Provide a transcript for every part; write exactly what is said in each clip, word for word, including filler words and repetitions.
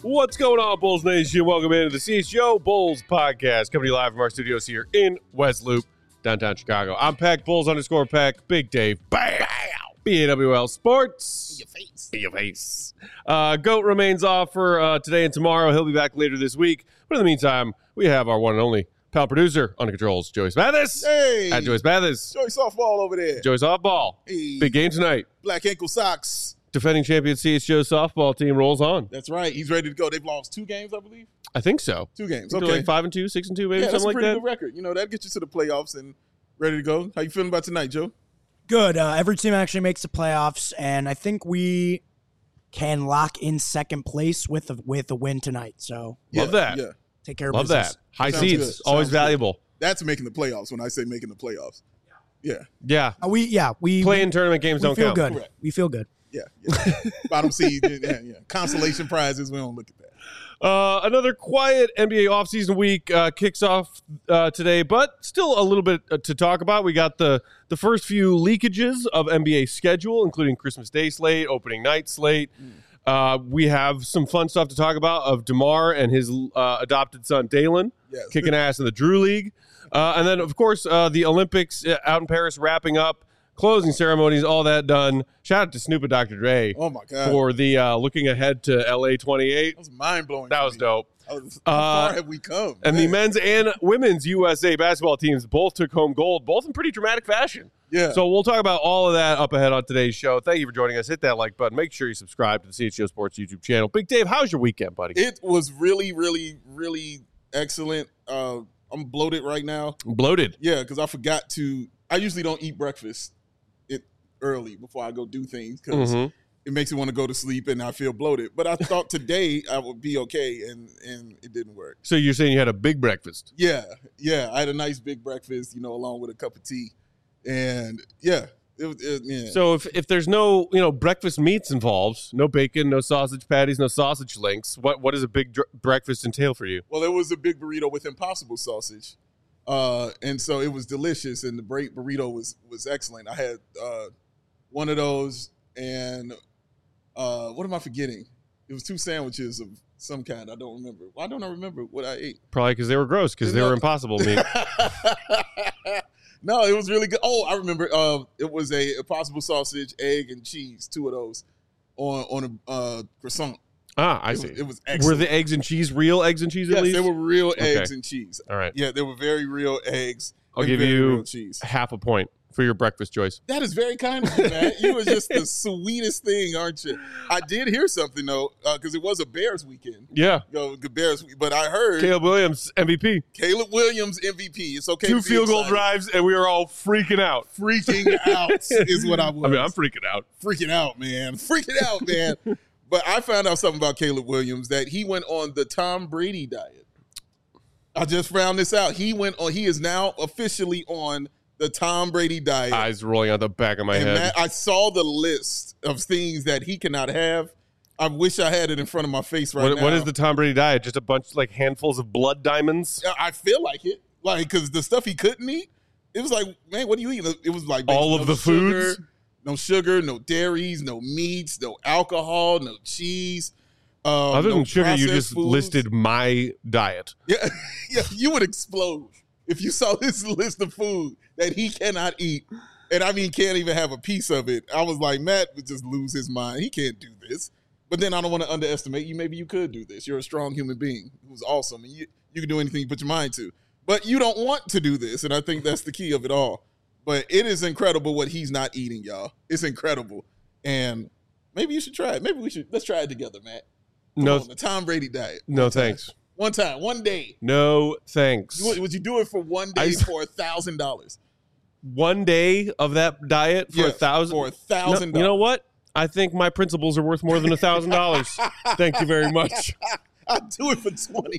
What's going on, Bulls Nation? Welcome into the C H G O Bulls podcast, coming to you live from our studios here in West Loop, downtown Chicago. I'm Peck, Bulls underscore Peck, Big Dave, bam, B A W L Sports. In your face. In your face. Uh, Goat remains off for uh, today and tomorrow. He'll be back later this week. But in the meantime, we have our one and only pal producer on the controls, Joyce Mathis. Hey. At Joyce Mathis. Joyce softball over there. Joyce softball. Hey. Big game tonight. Black ankle socks. Defending champion C H G O softball team rolls on. That's right. He's ready to go. They've lost two games, I believe. I think so. Two games. I think Okay. like five and two, six and two, maybe yeah, that's something a like pretty that. good record. You know, that gets you to the playoffs and ready to go. How you feeling about tonight, Joe? Good. Uh, every team actually makes the playoffs, and I think we can lock in second place with a, with a win tonight. So Love that. Yeah. take care of Love business. that. High Sounds seeds, good. always Sounds good. valuable. That's making the playoffs when I say making the playoffs. Yeah. Yeah. Uh, we yeah we Play-in tournament games we don't feel count. good. Correct. We feel good. Yeah. yeah. Bottom seed. Yeah, yeah. Consolation prizes. We don't look at that. Uh, another quiet N B A offseason week uh, kicks off uh, today, but still a little bit uh, to talk about. We got the the first few leakages of N B A schedule, including Christmas Day slate, opening night slate. Mm. Uh, we have some fun stuff to talk about of DeMar and his uh, adopted son, Dalen, Yes. kicking ass in the Drew League. Uh, and then, of course, uh, the Olympics out in Paris wrapping up, closing ceremonies, all that done. Shout out to Snoop and Doctor Dre Oh, my God. for the uh, looking ahead to L A twenty-eight. That was mind-blowing. That to was me. dope. That was, how Uh, far have we come? And Man. the men's and women's U S A basketball teams both took home gold, both in pretty dramatic fashion. Yeah. So we'll talk about all of that up ahead on today's show. Thank you for joining us. Hit that like button. Make sure you subscribe to the C H G O Sports YouTube channel. Big Dave, how's your weekend, buddy? It was really, really, really excellent. Uh, I'm bloated right now. Bloated. Yeah, because I forgot to. I usually don't eat breakfast it early before I go do things because Mhm. it makes me want to go to sleep and I feel bloated. But I thought today I would be okay, and and it didn't work. So you're saying you had a big breakfast? Yeah, yeah. I had a nice big breakfast, you know, along with a cup of tea, and yeah, it was. It, yeah. So if, if there's no you know breakfast meats involved, no bacon, no sausage patties, no sausage links, what what does a big dr- breakfast entail for you? Well, there was a big burrito with Impossible sausage, uh, and so it was delicious. And the break burrito was was excellent. I had uh, one of those, and uh, what am I forgetting? It was two sandwiches of some kind. I don't remember. Why don't I remember what I ate? Probably because they were gross, because they No. were impossible meat. No, it was really good. Oh, I remember. Uh, it was a Impossible sausage, egg, and cheese. Two of those on on a uh, croissant. Ah, I It see. was, it was Were excellent. the eggs and cheese real eggs and cheese at yes, least? they were real Okay. eggs and cheese. All right. Yeah, they were very real eggs. I'll and give very you real cheese. half a point for your breakfast, Joyce. That is very kind of you, man. You are just the sweetest thing, aren't you? I did hear something though, because it was a Bears weekend. Yeah. You know, the Bears, but I heard Caleb Williams, M V P. Caleb Williams M V P. It's okay. Two to be field goal excited. drives, and we are all freaking out. Freaking out is what I was. I mean, I'm freaking out. freaking out, man. Freaking out, man. But I found out something about Caleb Williams, that he went on the Tom Brady diet. I just found this out. He went on. He is now officially on the Tom Brady diet. Eyes rolling out the back of my and head. Matt, I saw the list of things that he cannot have. I wish I had it in front of my face right what, now. what is the Tom Brady diet? Just a bunch, like handfuls of blood diamonds? I feel like it, like because the stuff he couldn't eat, it was like, man, what do you eat? It was like All of no the sugar, foods? no sugar, no dairies, no meats, no alcohol, no cheese. Um, Other no than sugar, you processed just foods. listed my diet. Yeah, yeah, you would explode if you saw this list of food that he cannot eat, and I mean can't even have a piece of it. I was like, Matt would just lose his mind. He can't do this. But then I don't want to underestimate you. Maybe you could do this. You're a strong human being who's awesome, and you you can do anything you put your mind to. But you don't want to do this, and I think that's the key of it all. But it is incredible what he's not eating, y'all. It's incredible, and maybe you should try it. Maybe we should let's try it together, Matt. Come No, on, the Tom Brady diet. no thanks. One time, one day. No thanks. You, would you do it for one I day s- for a thousand dollars? One day of that diet for a thousand? For a thousand No, you know dollars. what? I think my principles are worth more than a thousand dollars. Thank you very much. I'd do it for twenty.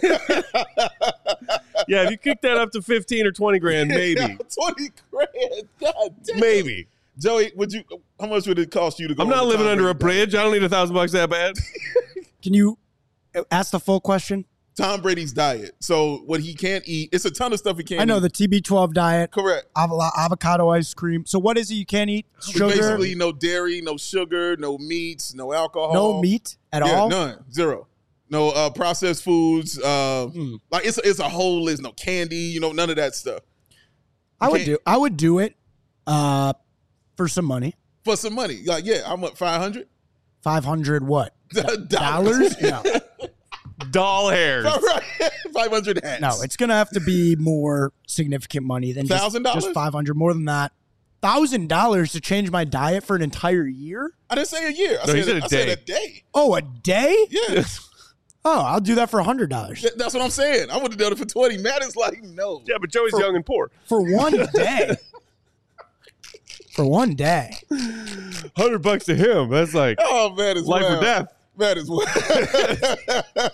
Yeah, if you kick that up to fifteen or twenty grand, maybe. twenty grand. God damn. Maybe. Joey, would you? How much would it cost you to go? I'm on not the living Tom under a Brady diet? bridge. I don't need a thousand bucks that bad. Can you ask the full question? Tom Brady's diet. So what he can't eat, it's a ton of stuff he can't I know eat. the T B twelve diet, Correct. avo- avocado ice cream. So what is it you can't eat? Sugar, Basically, no dairy, no sugar, no meats, no alcohol. no meat at Yeah, all? none. Zero. No uh, processed foods. Uh, Mm. Like it's it's a whole list. No candy. You know, none of that stuff. I would can't- do. I would do it uh, for some money. For some money. Like yeah, I'm up five hundred Five hundred what dollars. dollars? No, Doll hairs. Five hundred hats. no. It's gonna have to be more significant money than just, one thousand dollars? just five hundred. More than that. Thousand dollars to change my diet for an entire year? I didn't say a year. I, No, he said, said a I said day. a day. Oh, a day? Yeah. Oh, I'll do that for a hundred dollars Th- That's what I'm saying. I would have done it for twenty. Matt is like, no. Yeah, but Joey's young and poor. for one day. For one day. Hundred bucks to him. That's like Oh, man, it's life wild. or death. That is what.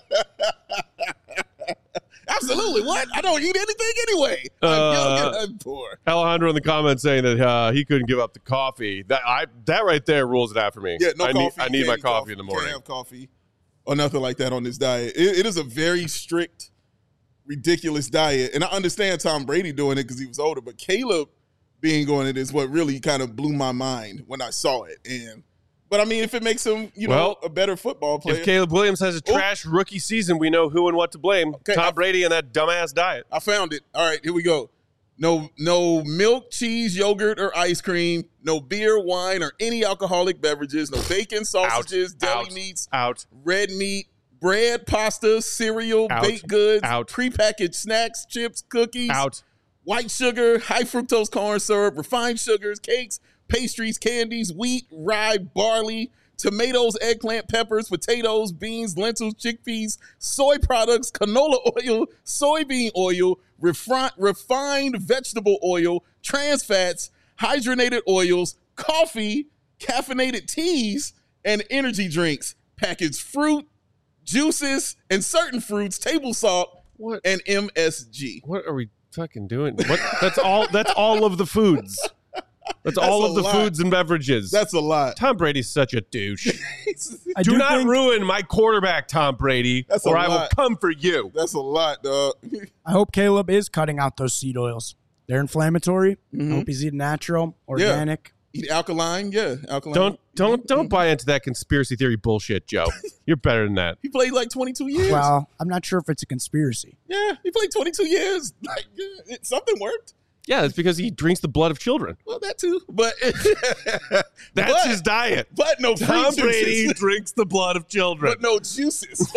Absolutely. What? I don't eat anything anyway. I'm Uh, young and I'm poor. Alejandro in the comments saying that uh, he couldn't give up the coffee. That I that right there rules it out for me. Yeah, no I coffee. Need, I need Can't my eat coffee in the Can't morning. have coffee or nothing like that on this diet. It, it is a very strict, ridiculous diet. And I understand Tom Brady doing it because he was older, but Caleb being on it is what really kind of blew my mind when I saw it. And But, I mean, if it makes him, you Well, know, a better football player. If Caleb Williams has a trash rookie season, we know who and what to blame. Okay, Tom I- Brady and that dumbass diet. I found it. All right, here we go. No, no milk, cheese, yogurt, or ice cream. No beer, wine, or any alcoholic beverages. No bacon, sausages, deli out, meats, out. red meat, bread, pasta, cereal, Out. baked goods, Out. prepackaged snacks, chips, cookies, Out. white sugar, high fructose corn syrup, refined sugars, cakes, pastries, candies, wheat, rye, barley, tomatoes, eggplant, peppers, potatoes, beans, lentils, chickpeas, soy products, canola oil, soybean oil, refri- refined vegetable oil, trans fats, hydrogenated oils, coffee, caffeinated teas, and energy drinks, packaged fruit, juices, and certain fruits, table salt, What? and M S G. What are we fucking doing? What? That's all. That's all of the foods. That's, That's all a of the lot. foods and beverages. That's a lot. Tom Brady's such a douche. I do, do not think- ruin my quarterback, Tom Brady, That's a or I will lot. come for you. That's a lot, dog. I hope Caleb is cutting out those seed oils. They're inflammatory. Mhm. I hope he's eating natural, organic. Eat alkaline, yeah, alkaline. Don't don't don't buy into that conspiracy theory bullshit, Joe. You're better than that. He played like twenty-two years. Well, I'm not sure if it's a conspiracy. Yeah, he played twenty-two years. Like yeah, it, something worked. Yeah, it's because he drinks the blood of children. Well, that too. But That's but, his diet. But no fruit Tom juices. Brady drinks the blood of children. But no juices.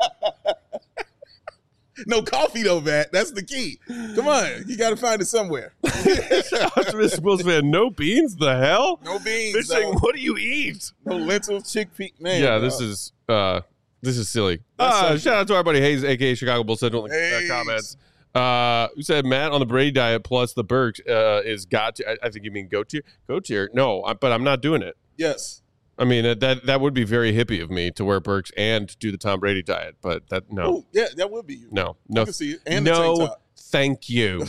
No coffee though, Matt. That's the key. Come on, you got to find it somewhere. Optimistic Bulls fan, no beans? The hell? No beans. They're saying, dog. what do you eat? No lentils, chickpea. Man, yeah, dog. this is uh, this is silly. That's Uh, so- shout out to our buddy Hayes, aka Chicago Bulls Central, in the uh, Hayes. comments. Uh, who said Matt on the Brady diet plus the Burks uh, is got to? I, I think you mean go tier. Go tier. No, I, but I'm not doing it. Yes. I mean that, that that would be very hippie of me to wear Burks and do the Tom Brady diet, but that no, Oh, yeah, that would be you. no, I no, can see it. And the no. tank top. Thank you.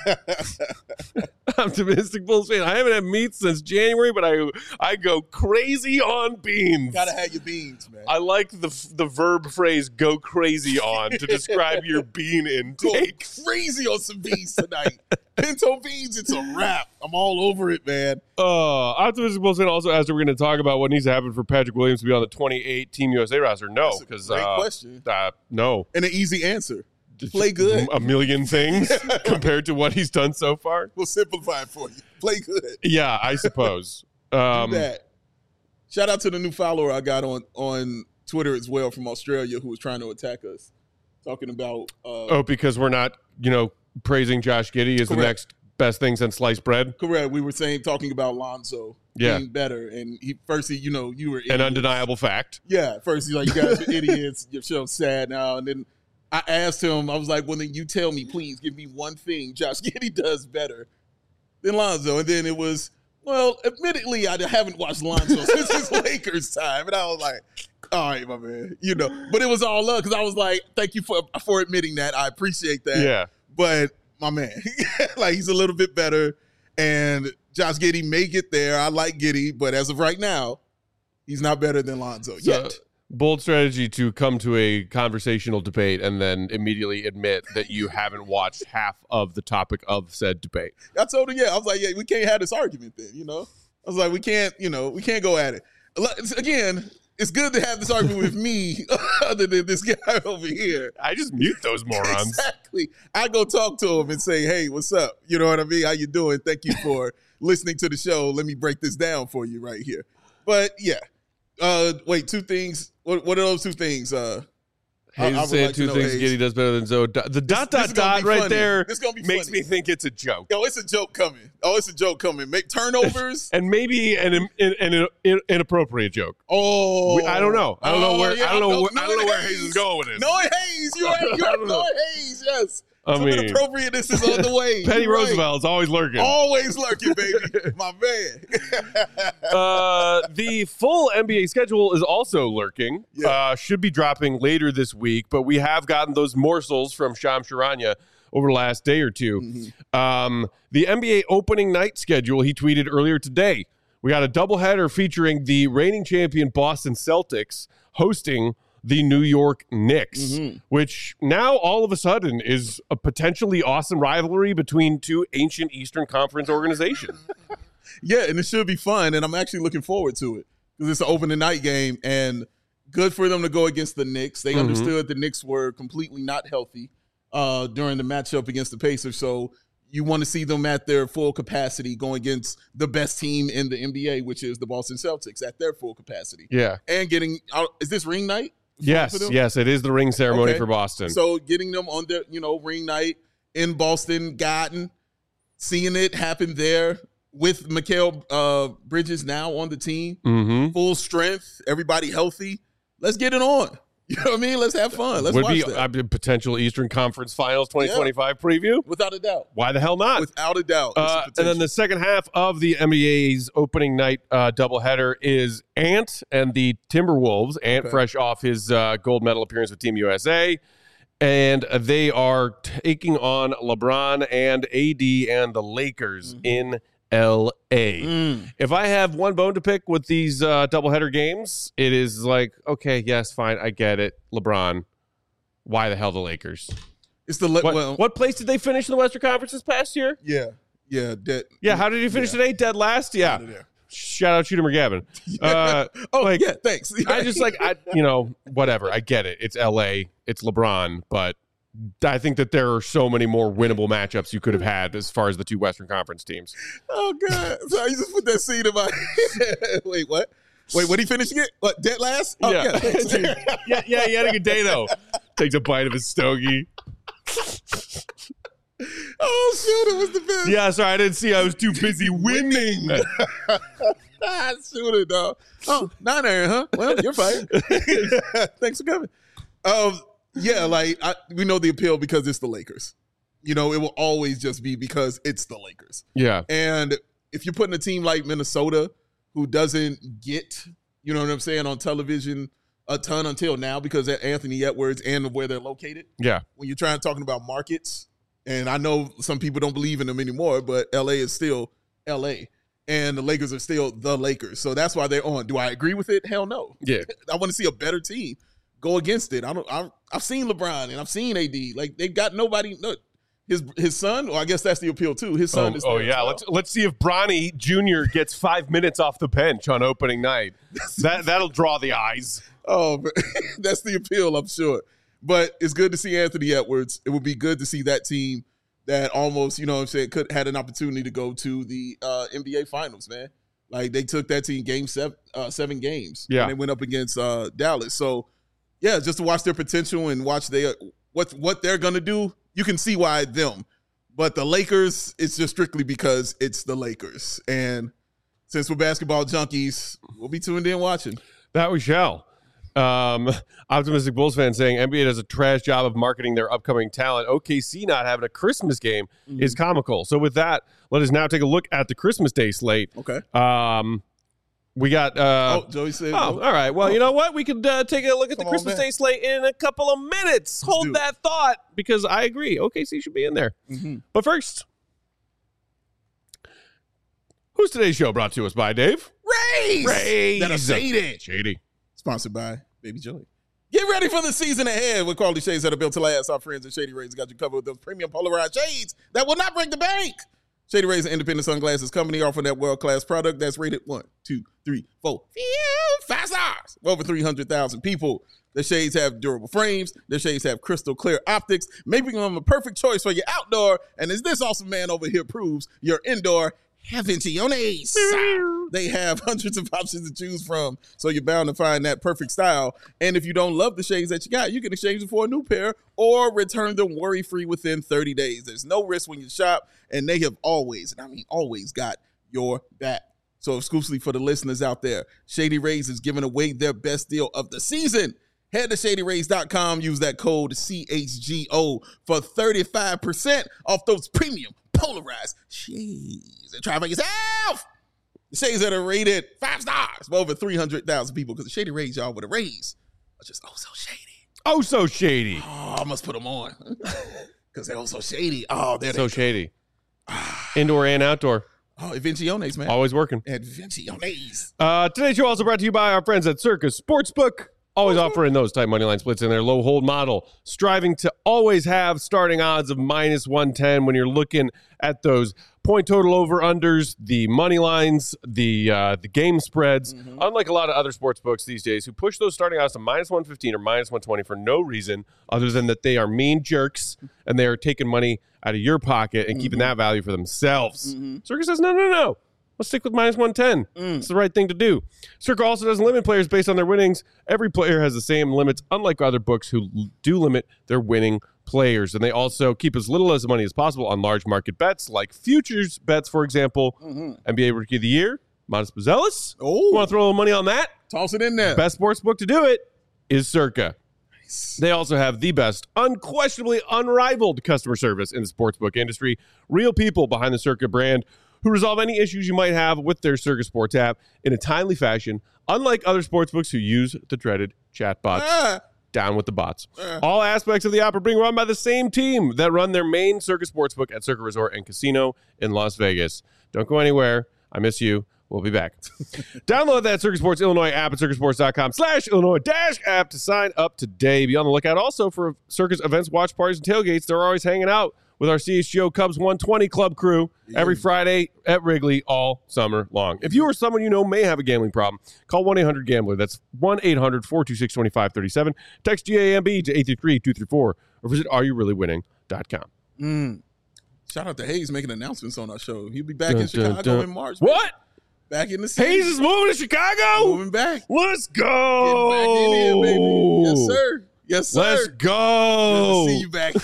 Optimistic Bulls fan. I haven't had meat since January, but I I go crazy on beans. Gotta have your beans, man. I like the the verb phrase "go crazy on" to describe your bean Go intake. crazy on some beans tonight. Pinto beans, it's a wrap. I'm all over it, man. Uh, Optimistic Bulls fan also asked if we're going to talk about what needs to happen for Patrick Williams to be on the twenty-eight Team U S A roster. No, That's a because great uh, question. uh, no, And an easy answer. Play good. A million things compared to what he's done so far. We'll simplify it for you. Play good. Yeah, I suppose. Um, Do that. Shout out to the new follower I got on on Twitter as well from Australia who was trying to attack us, talking about. Uh, oh, because we're not, you know, praising Josh Giddey as the Correct. next best thing since sliced bread. Correct. We were saying talking about Lonzo Yeah. being better, and he first he you know you were An idiots. undeniable fact. Yeah, first he's like, you guys are idiots. Your show's sad now, and then I asked him, I was like, well, then you tell me, please give me one thing Josh Giddey does better than Lonzo, and then it was. Well, admittedly, I haven't watched Lonzo since his Lakers time, and I was like, "All right, my man," you know. But it was all love because I was like, "Thank you for for admitting that. I appreciate that." Yeah. But my man, like he's a little bit better, and Josh Giddey may get there. I like Giddey, but as of right now, he's not better than Lonzo So, yet. bold strategy to come to a conversational debate and then immediately admit that you haven't watched half of the topic of said debate. I told him, yeah, I was like, yeah, we can't have this argument then, you know. I was like, we can't, you know, we can't go at it. Again, it's good to have this argument with me other than this guy over here. I just mute those morons. Exactly. I go talk to him and say, hey, what's up? You know what I mean? How you doing? Thank you for listening to the show. Let me break this down for you right here. But, yeah. Uh, wait, two things. What, what are those two things? Uh, Hayes I, I saying like two things Hayes. Giddy does better than Zoe. The This- dot, this dot, is gonna dot be right funny. there This is gonna be makes funny. me think it's a joke. Yo, it's a joke coming. Oh, it's a joke coming. Make turnovers. And maybe an, an, an, an inappropriate joke. Oh, We- I don't know. I don't know Oh, where. yeah, I don't know. no- Where, I don't know knowing where Hayes is going with this. Knowing Hayes, you're right. You're I right. don't know. Knowing Hayes, yes. I Some mean, inappropriateness is on the way. Penny You're right. Roosevelt is always lurking. Always lurking, baby. My man. Uh, the full N B A schedule is also lurking. Yeah. Uh, should be dropping later this week, but we have gotten those morsels from Sham Sharanya over the last day or two. Mm-hmm. Um, the N B A opening night schedule, he tweeted earlier today. We got a doubleheader featuring the reigning champion Boston Celtics hosting the New York Knicks, Mm-hmm. which now all of a sudden is a potentially awesome rivalry between two ancient Eastern Conference organizations. Yeah, and it should be fun, and I'm actually looking forward to it because it's an opening night game, and good for them to go against the Knicks. They Mhm. understood the Knicks were completely not healthy uh, during the matchup against the Pacers, so you want to see them at their full capacity going against the best team in the N B A, which is the Boston Celtics, at their full capacity. Yeah. And getting out, is this ring night? Yes, for them? yes, it is the ring ceremony Okay. for Boston. So getting them on their, you know, ring night in Boston Garden, seeing it happen there with Mikal uh, Bridges now on the team, mm-hmm. full strength, everybody healthy. Let's get it on. You know what I mean? Let's have fun. Let's Would watch be that. a potential Eastern Conference Finals twenty twenty-five preview. Without a doubt. Why the hell not? Without a doubt. It's a Uh, and then potential. the second half of the N B A's opening night uh, doubleheader is Ant and the Timberwolves. Ant, Okay. fresh off his uh, gold medal appearance with Team U S A. And they are taking on LeBron and A D and the Lakers Mhm. in L A. Mm. If I have one bone to pick with these uh, doubleheader games, it is like, okay, yes, fine, I get it. LeBron, why the hell the Lakers? It's the, le- What, well, what place did they finish in the Western Conference this past year? yeah, yeah. That, Yeah, how did he finish yeah. today? Dead last? Yeah. Out of there. Shout out Shooter McGavin. Uh, oh, like, yeah, thanks. I just like, I you know, whatever. I get it. It's L A. It's LeBron. But I think that there are so many more winnable matchups you could have had as far as the two Western Conference teams. Oh, God. So you just put that seed in my Wait, what? Wait, what he finishing it? What, dead last? Oh, yeah. Yeah. thanks. yeah, yeah, he had a good day, though. Takes a bite of his stogie. Oh, shoot, it was the best. Yeah, sorry, I didn't see. I was too busy winning. Ah, shoot it, dog. Oh, not Aaron, huh? Well, you're fine. Thanks for coming. Um, yeah, like I, we know the appeal because it's the Lakers. You know, it will always just be because it's the Lakers. Yeah. And if you're putting a team like Minnesota, who doesn't get, you know what I'm saying, on television a ton until now because of Anthony Edwards and where they're located. Yeah. When you're trying talking about markets, and I know some people don't believe in them anymore, but L A is still L A, and the Lakers are still the Lakers. So that's why they're on. Do I agree with it? Hell no. Yeah. I want to see a better team go against it. I don't. I, I've seen LeBron and I've seen A D. Like they got nobody. No, his his son. Well, I guess that's the appeal too. His son Oh, is. oh there as yeah. well. Let's let's see if Bronny Junior gets five minutes off the bench on opening night. That that'll draw the eyes. Oh, but that's the appeal, I'm sure. But it's good to see Anthony Edwards. It would be good to see that team that almost, you know what I'm saying, could had an opportunity to go to the uh, N B A Finals, man. Like, they took that team game seven, uh, seven games. Yeah. And they went up against uh, Dallas. So, yeah, just to watch their potential and watch their, what, what they're going to do, you can see why them. But the Lakers, it's just strictly because it's the Lakers. And since we're basketball junkies, we'll be tuned in watching. That we shall. Um, Optimistic Bulls fan saying N B A does a trash job of marketing their upcoming talent. O K C not having a Christmas game Mm-hmm. is comical. So with that, let us now take a look at the Christmas Day slate. Okay. Um, we got. Uh, oh, Joey said. Oh, all right. Well, you know what? We could uh, take a look at Come the on, Christmas man. Day slate in a couple of minutes. do Hold it. that thought because I agree. O K C should be in there. Mm-hmm. But first, who's today's show brought to us by, Dave? Raise! Raise. That are shady. Shady. Sponsored by Baby Joey. Get ready for the season ahead with quality shades that are built to last. Our friends at Shady Rays got you covered with those premium polarized shades that will not break the bank. Shady Rays, an independent sunglasses company offering that world-class product that's rated one, two, three, four, five stars. Over three hundred thousand people. The shades have durable frames. The shades have crystal clear optics, making them a perfect choice for your outdoor. And as this awesome man over here proves, your indoor Aventiones. They have hundreds of options to choose from, so you're bound to find that perfect style. And if you don't love the shades that you got, you can exchange them for a new pair or return them worry-free within thirty days. There's no risk when you shop, and they have always, and I mean always, got your back. So exclusively for the listeners out there, Shady Rays is giving away their best deal of the season. Head to shady rays dot com, use that code C H G O for thirty-five percent off those premium polarized shades. And try for yourself. The shades that are rated five stars by over three hundred thousand people, because the Shady Rays, y'all, with the Rays are just oh so shady. Oh, so shady. Oh, I must put them on because they're oh so shady. Oh, they're so shady. Indoor and outdoor. Oh, Inventiones, man. Always working. Inventiones. Uh, today's show also brought to you by our friends at Circus Sportsbook. Always offering those tight money line splits in their low hold model, striving to always have starting odds of minus one ten when you're looking at those point total over unders, the money lines, the uh, the game spreads. Mm-hmm. Unlike a lot of other sports books these days who push those starting odds to minus one fifteen or minus one twenty for no reason other than that they are mean jerks and they are taking money out of your pocket and mm-hmm. keeping that value for themselves. Mm-hmm. Circus says, no, no, no. Let's stick with minus one ten. Mm. It's the right thing to do. Circa also doesn't limit players based on their winnings. Every player has the same limits, unlike other books who do limit their winning players. And they also keep as little as money as possible on large market bets, like futures bets, for example. Mm-hmm. N B A Rookie of the Year, Montas Buzelis. Oh, you want to throw a little money on that? Toss it in there. Best sports book to do it is Circa. Nice. They also have the best, unquestionably unrivaled customer service in the sportsbook industry. Real people behind the Circa brand who resolve any issues you might have with their Circa Sports app in a timely fashion, unlike other sportsbooks who use the dreaded chatbots. Ah. Down with the bots. Ah. All aspects of the app are being run by the same team that run their main Circa Sportsbook at Circa Resort and Casino in Las Vegas. Don't go anywhere. I miss you. We'll be back. Download that Circa Sports Illinois app at circa sports dot com slash Illinois dash app to sign up today. Be on the lookout also for Circa's events, watch parties, and tailgates. They're always hanging out with our C H G O Cubs one twenty Club crew every Friday at Wrigley all summer long. If you or someone you know may have a gambling problem, call one eight hundred gambler. That's one eight hundred four two six two five three seven. Text G A M B to eight three three two three four or visit are you really winning dot com. Mm. Shout out to Hayes making announcements on our show. He'll be back dun, in Chicago dun, dun. in March. What? Man. Back in the city. Hayes is moving to Chicago? Moving back. Let's go. Getting back in here, baby. Yes, sir. Yes, sir. Let's go. Good to see you back.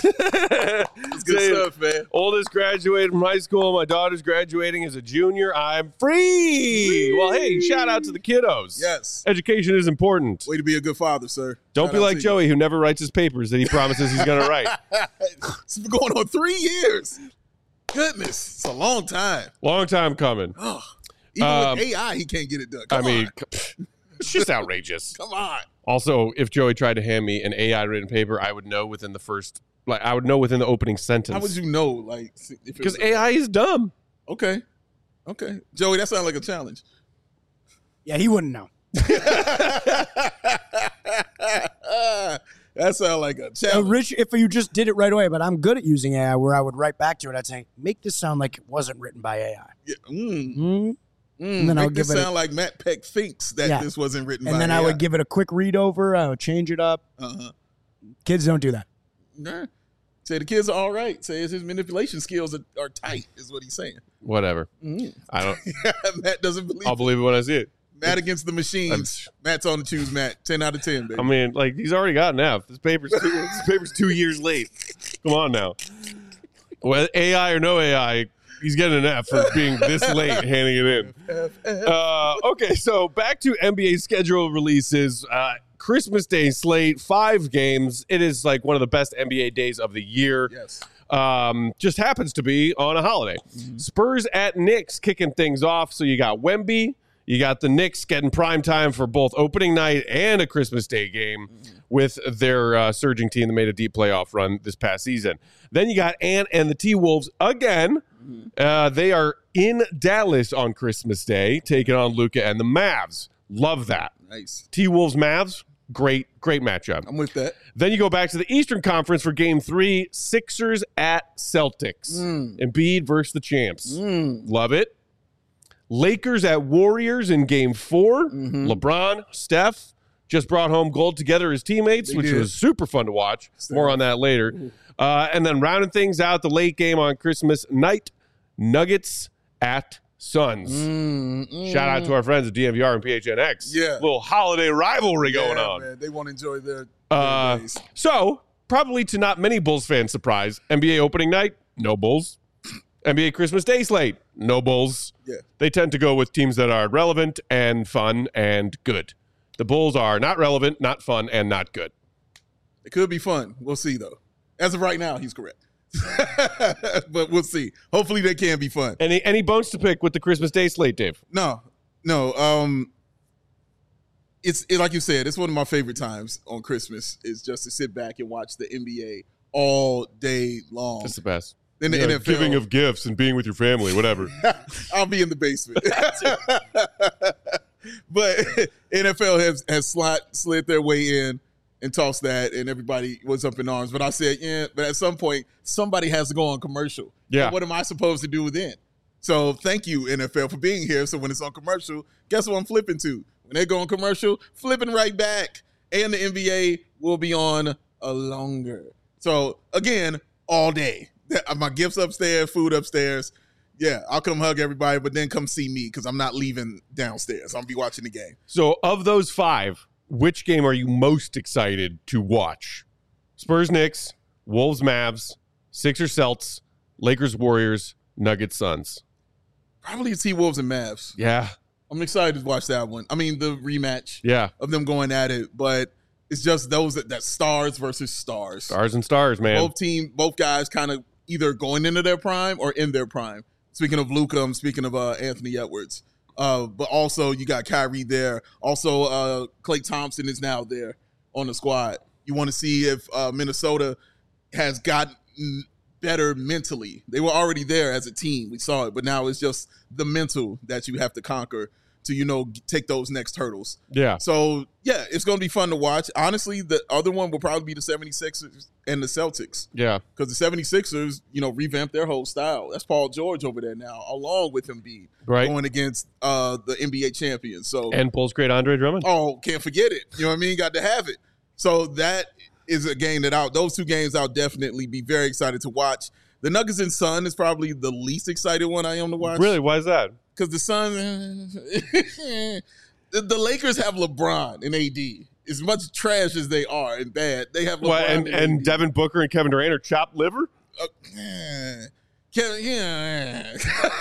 It's good Say, stuff, man. Oldest graduated from high school. My daughter's graduating as a junior. I'm free. free. Well, hey, shout out to the kiddos. Yes. Education is important. Way to be a good father, sir. Don't shout be like Joey, you. who never writes his papers that he promises he's going to write. It's been going on three years. Goodness. It's a long time. Long time coming. Oh, even um, with A I, he can't get it done. Come I mean, on. It's just outrageous. Come on. Also, if Joey tried to hand me an A I written paper, I would know within the first, like, I would know within the opening sentence. How would you know? Like, because A I is dumb. Okay. Okay. Joey, that sounds like a challenge. Yeah, he wouldn't know. That sounds like a challenge. Uh, Rich, if you just did it right away, but I'm good at using A I where I would write back to it. I'd say, make this sound like it wasn't written by A I. Yeah. Mm. Mm-hmm. Mm, and then I would give it sound a, like Matt Peck thinks that yeah. this wasn't written and by then A I. I would give it a quick read over. I would change it up. Uh-huh. Kids don't do that. Nah. Say the kids are all right. Say his manipulation skills are, are tight, is what he's saying. Whatever. Mm. I don't. Matt doesn't believe I'll it. believe it when I see it. Matt against the machines. I'm, Matt's on the choose Matt. ten out of ten, baby. I mean, like, he's already got an F. This paper's two, this paper's two years late. Come on now. Well, A I or no A I, he's getting an F for being this late handing it in. Uh, okay, so back to N B A schedule releases. Uh, Christmas Day slate, five games. It is like one of the best N B A days of the year. Yes. Um, just happens to be on a holiday. Mm-hmm. Spurs at Knicks kicking things off. So you got Wemby. You got the Knicks getting prime time for both opening night and a Christmas Day game mm-hmm. with their uh, surging team that made a deep playoff run this past season. Then you got Ant and the T-Wolves again. Mm-hmm. Uh, they are in Dallas on Christmas Day, taking on Luka and the Mavs. Love that. Nice. T-Wolves, Mavs, great, great matchup. I'm with that. Then you go back to the Eastern Conference for game three, Sixers at Celtics. Mm. Embiid versus the champs. Mm. Love it. Lakers at Warriors in game four. Mm-hmm. LeBron, Steph just brought home gold together as teammates, They which did. was super fun to watch. Steph. More on that later. Uh, and then rounding things out, the late game on Christmas night, Nuggets at Suns. Mm, mm. Shout out to our friends at D M V R and P H N X. Yeah. Little holiday rivalry going Yeah, on. Man, they want to enjoy their, their Uh, days. so, probably to not many Bulls fans' surprise, N B A opening night, no Bulls. N B A Christmas Day slate, no Bulls. Yeah. They tend to go with teams that are relevant and fun and good. The Bulls are not relevant, not fun, and not good. It could be fun. We'll see, though. As of right now, he's correct. But we'll see. Hopefully they can be fun. Any any bones to pick with the Christmas Day slate, Dave? No, no. Um, it's it, like you said. It's one of my favorite times on Christmas is just to sit back and watch the N B A all day long. That's the best. Then the You know, N F L, giving of gifts and being with your family, whatever. I'll be in the basement. But N F L has has slid slid their way in and tossed that, and everybody was up in arms. But I said, yeah. But at some point, somebody has to go on commercial. Yeah. And what am I supposed to do then? So thank you, N F L, for being here. So when it's on commercial, guess what I'm flipping to? When they go on commercial, flipping right back. And the N B A will be on a longer. So again, all day. My gifts upstairs, food upstairs. Yeah, I'll come hug everybody, but then come see me because I'm not leaving downstairs. I'm going to be watching the game. So, of those five, which game are you most excited to watch? Spurs, Knicks, Wolves, Mavs, Sixers, Celts, Lakers, Warriors, Nuggets, Suns. Probably T-Wolves and Mavs. Yeah, I'm excited to watch that one. I mean, the rematch yeah. of them going at it, but it's just those that, that stars versus stars. Stars and stars, man. Both team, both guys kind of either going into their prime or in their prime. Speaking of Luka, I'm speaking of uh, Anthony Edwards. Uh, but also you got Kyrie there. Also, uh, Klay Thompson is now there on the squad. You want to see if uh, Minnesota has gotten better mentally. They were already there as a team. We saw it, but now it's just the mental that you have to conquer to, you know, take those next hurdles. Yeah. So, yeah, it's going to be fun to watch. Honestly, the other one will probably be the seventy-sixers and the Celtics. Yeah. Because the seventy-sixers, you know, revamped their whole style. That's Paul George over there now, along with Embiid, Right. going against uh, the N B A champions. So, And Bulls great Andre Drummond. oh, can't forget it. You know what I mean? Got to have it. So that is a game that I'll, those two games I'll definitely be very excited to watch. The Nuggets and Sun is probably the least excited one I am to watch. Really? Why is that? Because the Suns, the, the Lakers have LeBron and A D. As much trash as they are and bad, they have LeBron What, and, and, and A D. Devin Booker and Kevin Durant are chopped liver? Uh, eh. Kevin, yeah.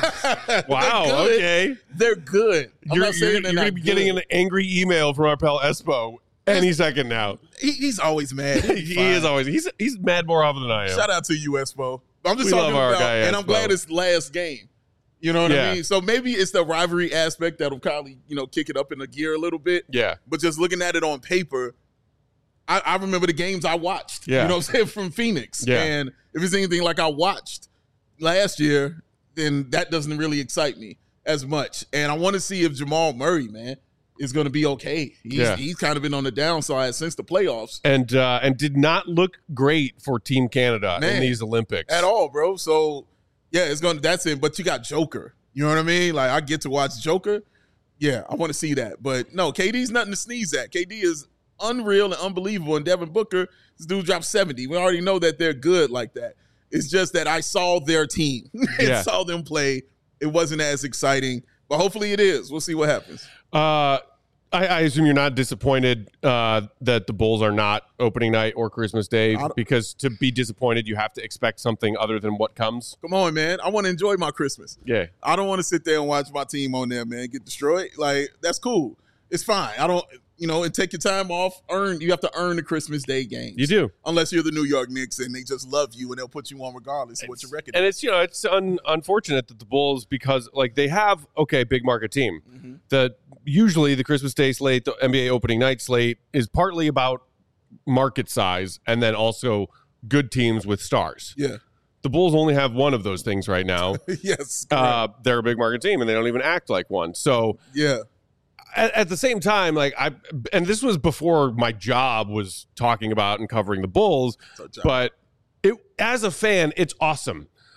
Wow, They're good. okay. They're good. I'm You're, not saying you're, they're you're going not to be getting good. an angry email from our pal Espo any second now. He, he's always mad. He'll be He fine. is always, he's he's mad more often than I am. Shout out to you, Espo. I'm just We talking love our about, guy, and I'm Espo. glad it's last game. You know what Yeah. I mean? So maybe it's the rivalry aspect that'll probably, you know, kick it up in a gear a little bit. Yeah. But just looking at it on paper, I, I remember the games I watched. Yeah. You know what I'm saying? From Phoenix. Yeah. And if it's anything like I watched last year, then that doesn't really excite me as much. And I want to see if Jamal Murray, man, is going to be okay. He's, Yeah. he's kind of been on the downside since the playoffs. And uh, and did not look great for Team Canada Man. in these Olympics. At all, bro. So yeah, it's gonna that's it. But you got Joker. You know what I mean? Like I get to watch Joker. Yeah, I want to see that. But no, K D's nothing to sneeze at. K D is unreal and unbelievable. And Devin Booker, this dude dropped seventy. We already know that they're good like that. It's just that I saw their team and Yeah. saw them play. It wasn't as exciting, but hopefully it is. We'll see what happens. Uh, I, I assume you're not disappointed uh, that the Bulls are not opening night or Christmas Day, I don't- because to be disappointed, you have to expect something other than what comes. Come on, man. I want to enjoy my Christmas. Yeah. I don't want to sit there and watch my team on there, man, get destroyed. Like, that's cool. It's fine. I don't, you know, and take your time off. Earn, you have to earn the Christmas Day games. You do. Unless you're the New York Knicks and they just love you and they'll put you on regardless of what your record And is. it's, you know, it's un- unfortunate that the Bulls, because like they have, okay, big market team. Mhm. The usually the Christmas Day slate, the N B A opening night slate is partly about market size and then also good teams with stars. Yeah. The Bulls only have one of those things right now. Yes. uh, they're a big market team and they don't even act like one. So yeah. at, at the same time, like I, and this was before my job was talking about and covering the Bulls, So, John, but it, as a fan, it's awesome.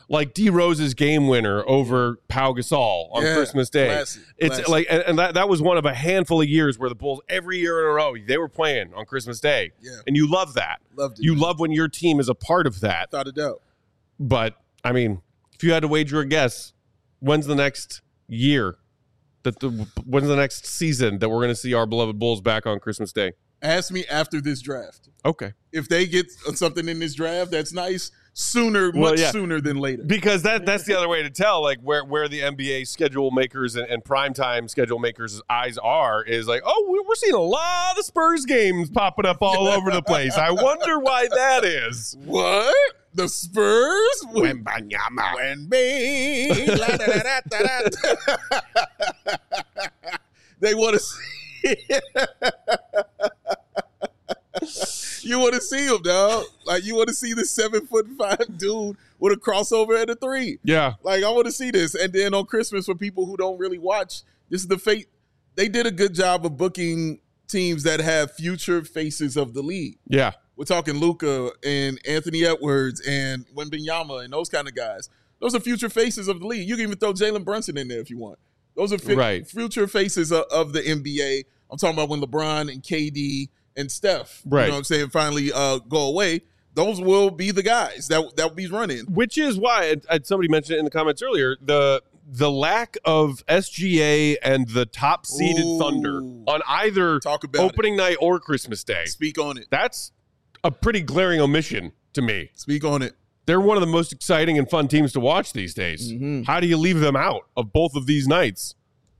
like D Rose's game winner over Pau Gasol on Yeah, Christmas Day. classic, it's classic. like, and, and that, that was one of a handful of years where the Bulls every year in a row they were playing on Christmas Day. Yeah. And you love that. Loved it. You love when your team is a part of that. Without a doubt. But I mean, if you had to wager a guess, when's the next year that the when's the next season that we're going to see our beloved Bulls back on Christmas Day? Ask me after this draft. Okay. If they get something in this draft that's nice, sooner, Well, much yeah. sooner than later. Because that that's the other way to tell, like where, where the N B A schedule makers and, and primetime schedule makers' eyes are is like, oh, we- we're seeing a lot of Spurs games popping up all over the place. I wonder why that is. What? The Spurs? Wembanyama. Wemby. La, da, da, da, da, da. They want to see. You want to see him, dog. Like, you want to see the seven foot five dude with a crossover and a three. Yeah. Like, I want to see this. And then on Christmas, for people who don't really watch, this is the fate. They did a good job of booking teams that have future faces of the league. Yeah. We're talking Luka and Anthony Edwards and Wembanyama and those kind of guys. Those are future faces of the league. You can even throw Jalen Brunson in there if you want. Those are fi- Right. future faces of, of the N B A. I'm talking about when LeBron and K D and Steph, Right. you know what I'm saying, finally uh, go away. Those will be the guys that that will be running. Which is why and- and somebody mentioned it in the comments earlier, the the lack of S G A and the top seeded Ooh. Thunder on either Talk about opening night or Christmas Day. it. Speak on it. That's a pretty glaring omission to me. Speak on it. They're one of the most exciting and fun teams to watch these days. Mhm. How do you leave them out of both of these nights?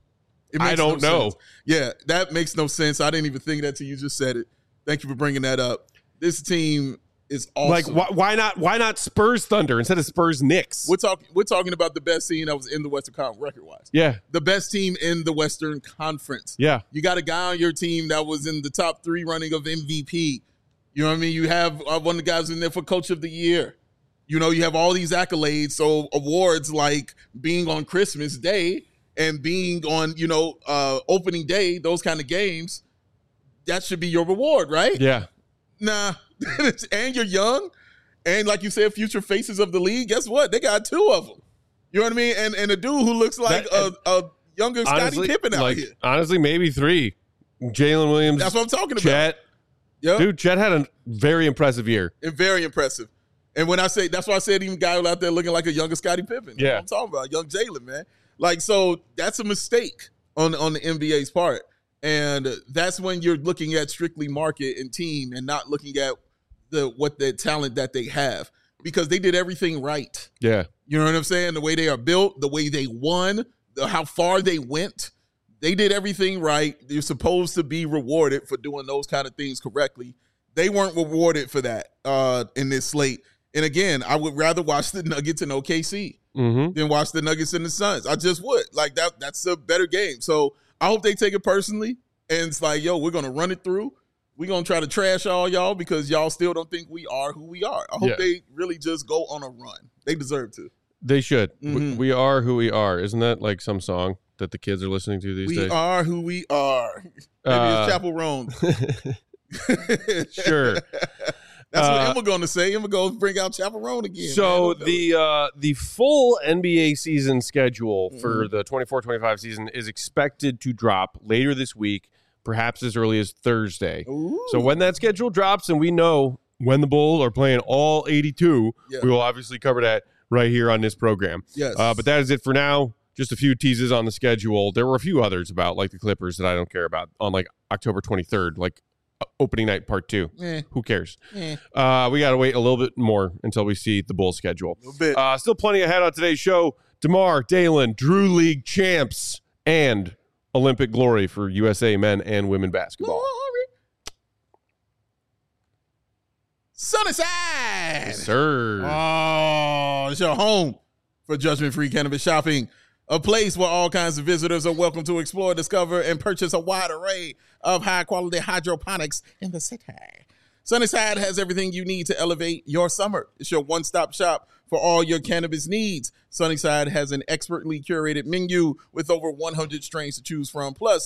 It I makes don't no know. sense. Yeah, that makes no sense. I didn't even think that till you just said it. Thank you for bringing that up. This team is awesome. Like, why, why not? Why not Spurs Thunder instead of Spurs Knicks? We're talking. We're talking about the best team that was in the Western Conference record-wise. Yeah, The best team in the Western Conference. yeah, You got a guy on your team that was in the top three running of M V P. You know what I mean? You have uh, one of the guys in there for Coach of the Year. You know, you have all these accolades. So awards like being on Christmas Day and being on, you know, uh, opening day, those kind of games, that should be your reward, right? yeah. Nah. And you're young. And like you said, future faces of the league. Guess what? They got two of them. You know what I mean? And and a dude who looks like That- a, a younger Scottie Honestly, Pippen out like here. honestly, maybe three. Jalen Williams, That's what I'm talking about. Chet. Yep. Dude, Chet had a very impressive year. And very impressive. And when I say, that's why I said even guy out there looking like a younger Scottie Pippen. That's Yeah. what I'm talking about, young Jalen, man. Like, so that's a mistake on, on the N B A's part. And that's when you're looking at strictly market and team and not looking at the what the talent that they have. Because they did everything right. Yeah, You know what I'm saying? The way they are built, the way they won, the, how far they went. They did everything right. They're supposed to be rewarded for doing those kind of things correctly. They weren't rewarded for that uh, in this slate. And again, I would rather watch the Nuggets and O K C mm-hmm. than watch the Nuggets and the Suns. I just would. Like, that. that's a better game. So I hope they take it personally. And it's like, yo, we're going to run it through. We're going to try to trash all y'all because y'all still don't think we are who we are. I hope Yeah. they really just go on a run. They deserve to. They should. We, Mhm. we are who we are. Isn't that like some song that the kids are listening to these We days? are who we are. Maybe Uh, it's Chapel Roan. Sure. That's Uh, what Emma going to say. Emma going to bring out Chapel Roan again. So man. the uh, the full N B A season schedule for Mm-hmm. the twenty-four twenty-five season is expected to drop later this week, perhaps as early as Thursday. Ooh. So when that schedule drops and we know when the Bulls are playing all eighty-two, Yeah. we will obviously cover that right here on this program. Yes. Uh, but that is it for now. Just a few teases on the schedule. There were a few others about like the Clippers that I don't care about on like October twenty-third, like uh, opening night part two. Eh, Who cares? eh, Uh, we got to wait a little bit more until we see the Bulls schedule. a little bit. Uh, still plenty ahead on today's show. DeMar, Dalen, Drew League champs, and Olympic glory for U S A men and women basketball. Sunnyside. Yes, sir. Oh, it's your home for judgment-free cannabis shopping. A place where all kinds of visitors are welcome to explore, discover, and purchase a wide array of high-quality hydroponics in the city. Sunnyside has everything you need to elevate your summer. It's your one-stop shop for all your cannabis needs. Sunnyside has an expertly curated menu with over one hundred strains to choose from, plus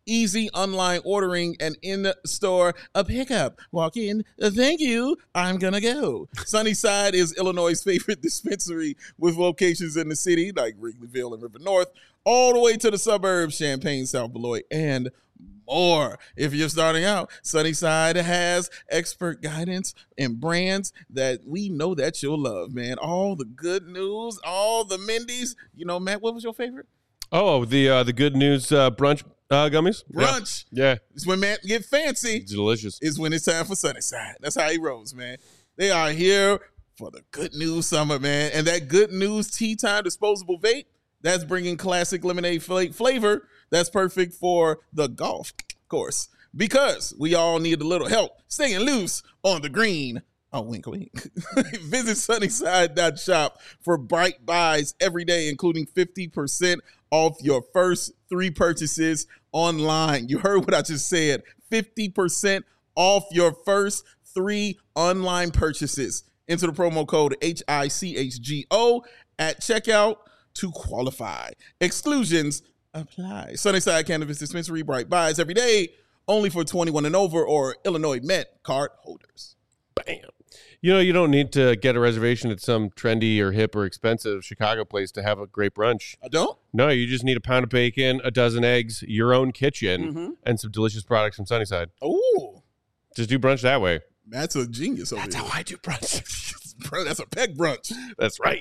easy online ordering, and in-store a pickup. Walk in, uh, thank you, I'm gonna go. Sunnyside is Illinois' favorite dispensary with locations in the city like Wrigleyville and River North, all the way to the suburbs, Champaign, South Beloit, and more. If you're starting out, Sunnyside has expert guidance and brands that we know that you'll love, man. All the good news, all the Mindy's. You know, Matt, what was your favorite? Oh, the uh, the Good News uh, brunch uh, gummies? Brunch. Yeah. yeah. It's when Matt get fancy. It's delicious. It's when it's time for Sunnyside. That's how he rolls, man. They are here for the Good News summer, man. And that Good News Tea Time disposable vape, that's bringing classic lemonade flavor. That's perfect for the golf course because we all need a little help staying loose on the green. Oh, wink, wink. Visit sunnyside dot shop for bright buys every day, including fifty percent off your first three purchases online. You heard what I just said. fifty percent off your first three online purchases. Enter the promo code H I C H G O at checkout to qualify. Exclusions apply. Sunnyside Cannabis Dispensary, bright buys every day, only for twenty-one and over or Illinois Met card holders. Bam. You know, you don't need to get a reservation at some trendy or hip or expensive Chicago place to have a great brunch. I don't? No, you just need a pound of bacon, a dozen eggs, your own kitchen, Mm-hmm. and some delicious products from Sunnyside. Ooh. Just do brunch that way. Matt's a genius over That's here. how I do brunch. Bro, that's a peg brunch. That's right.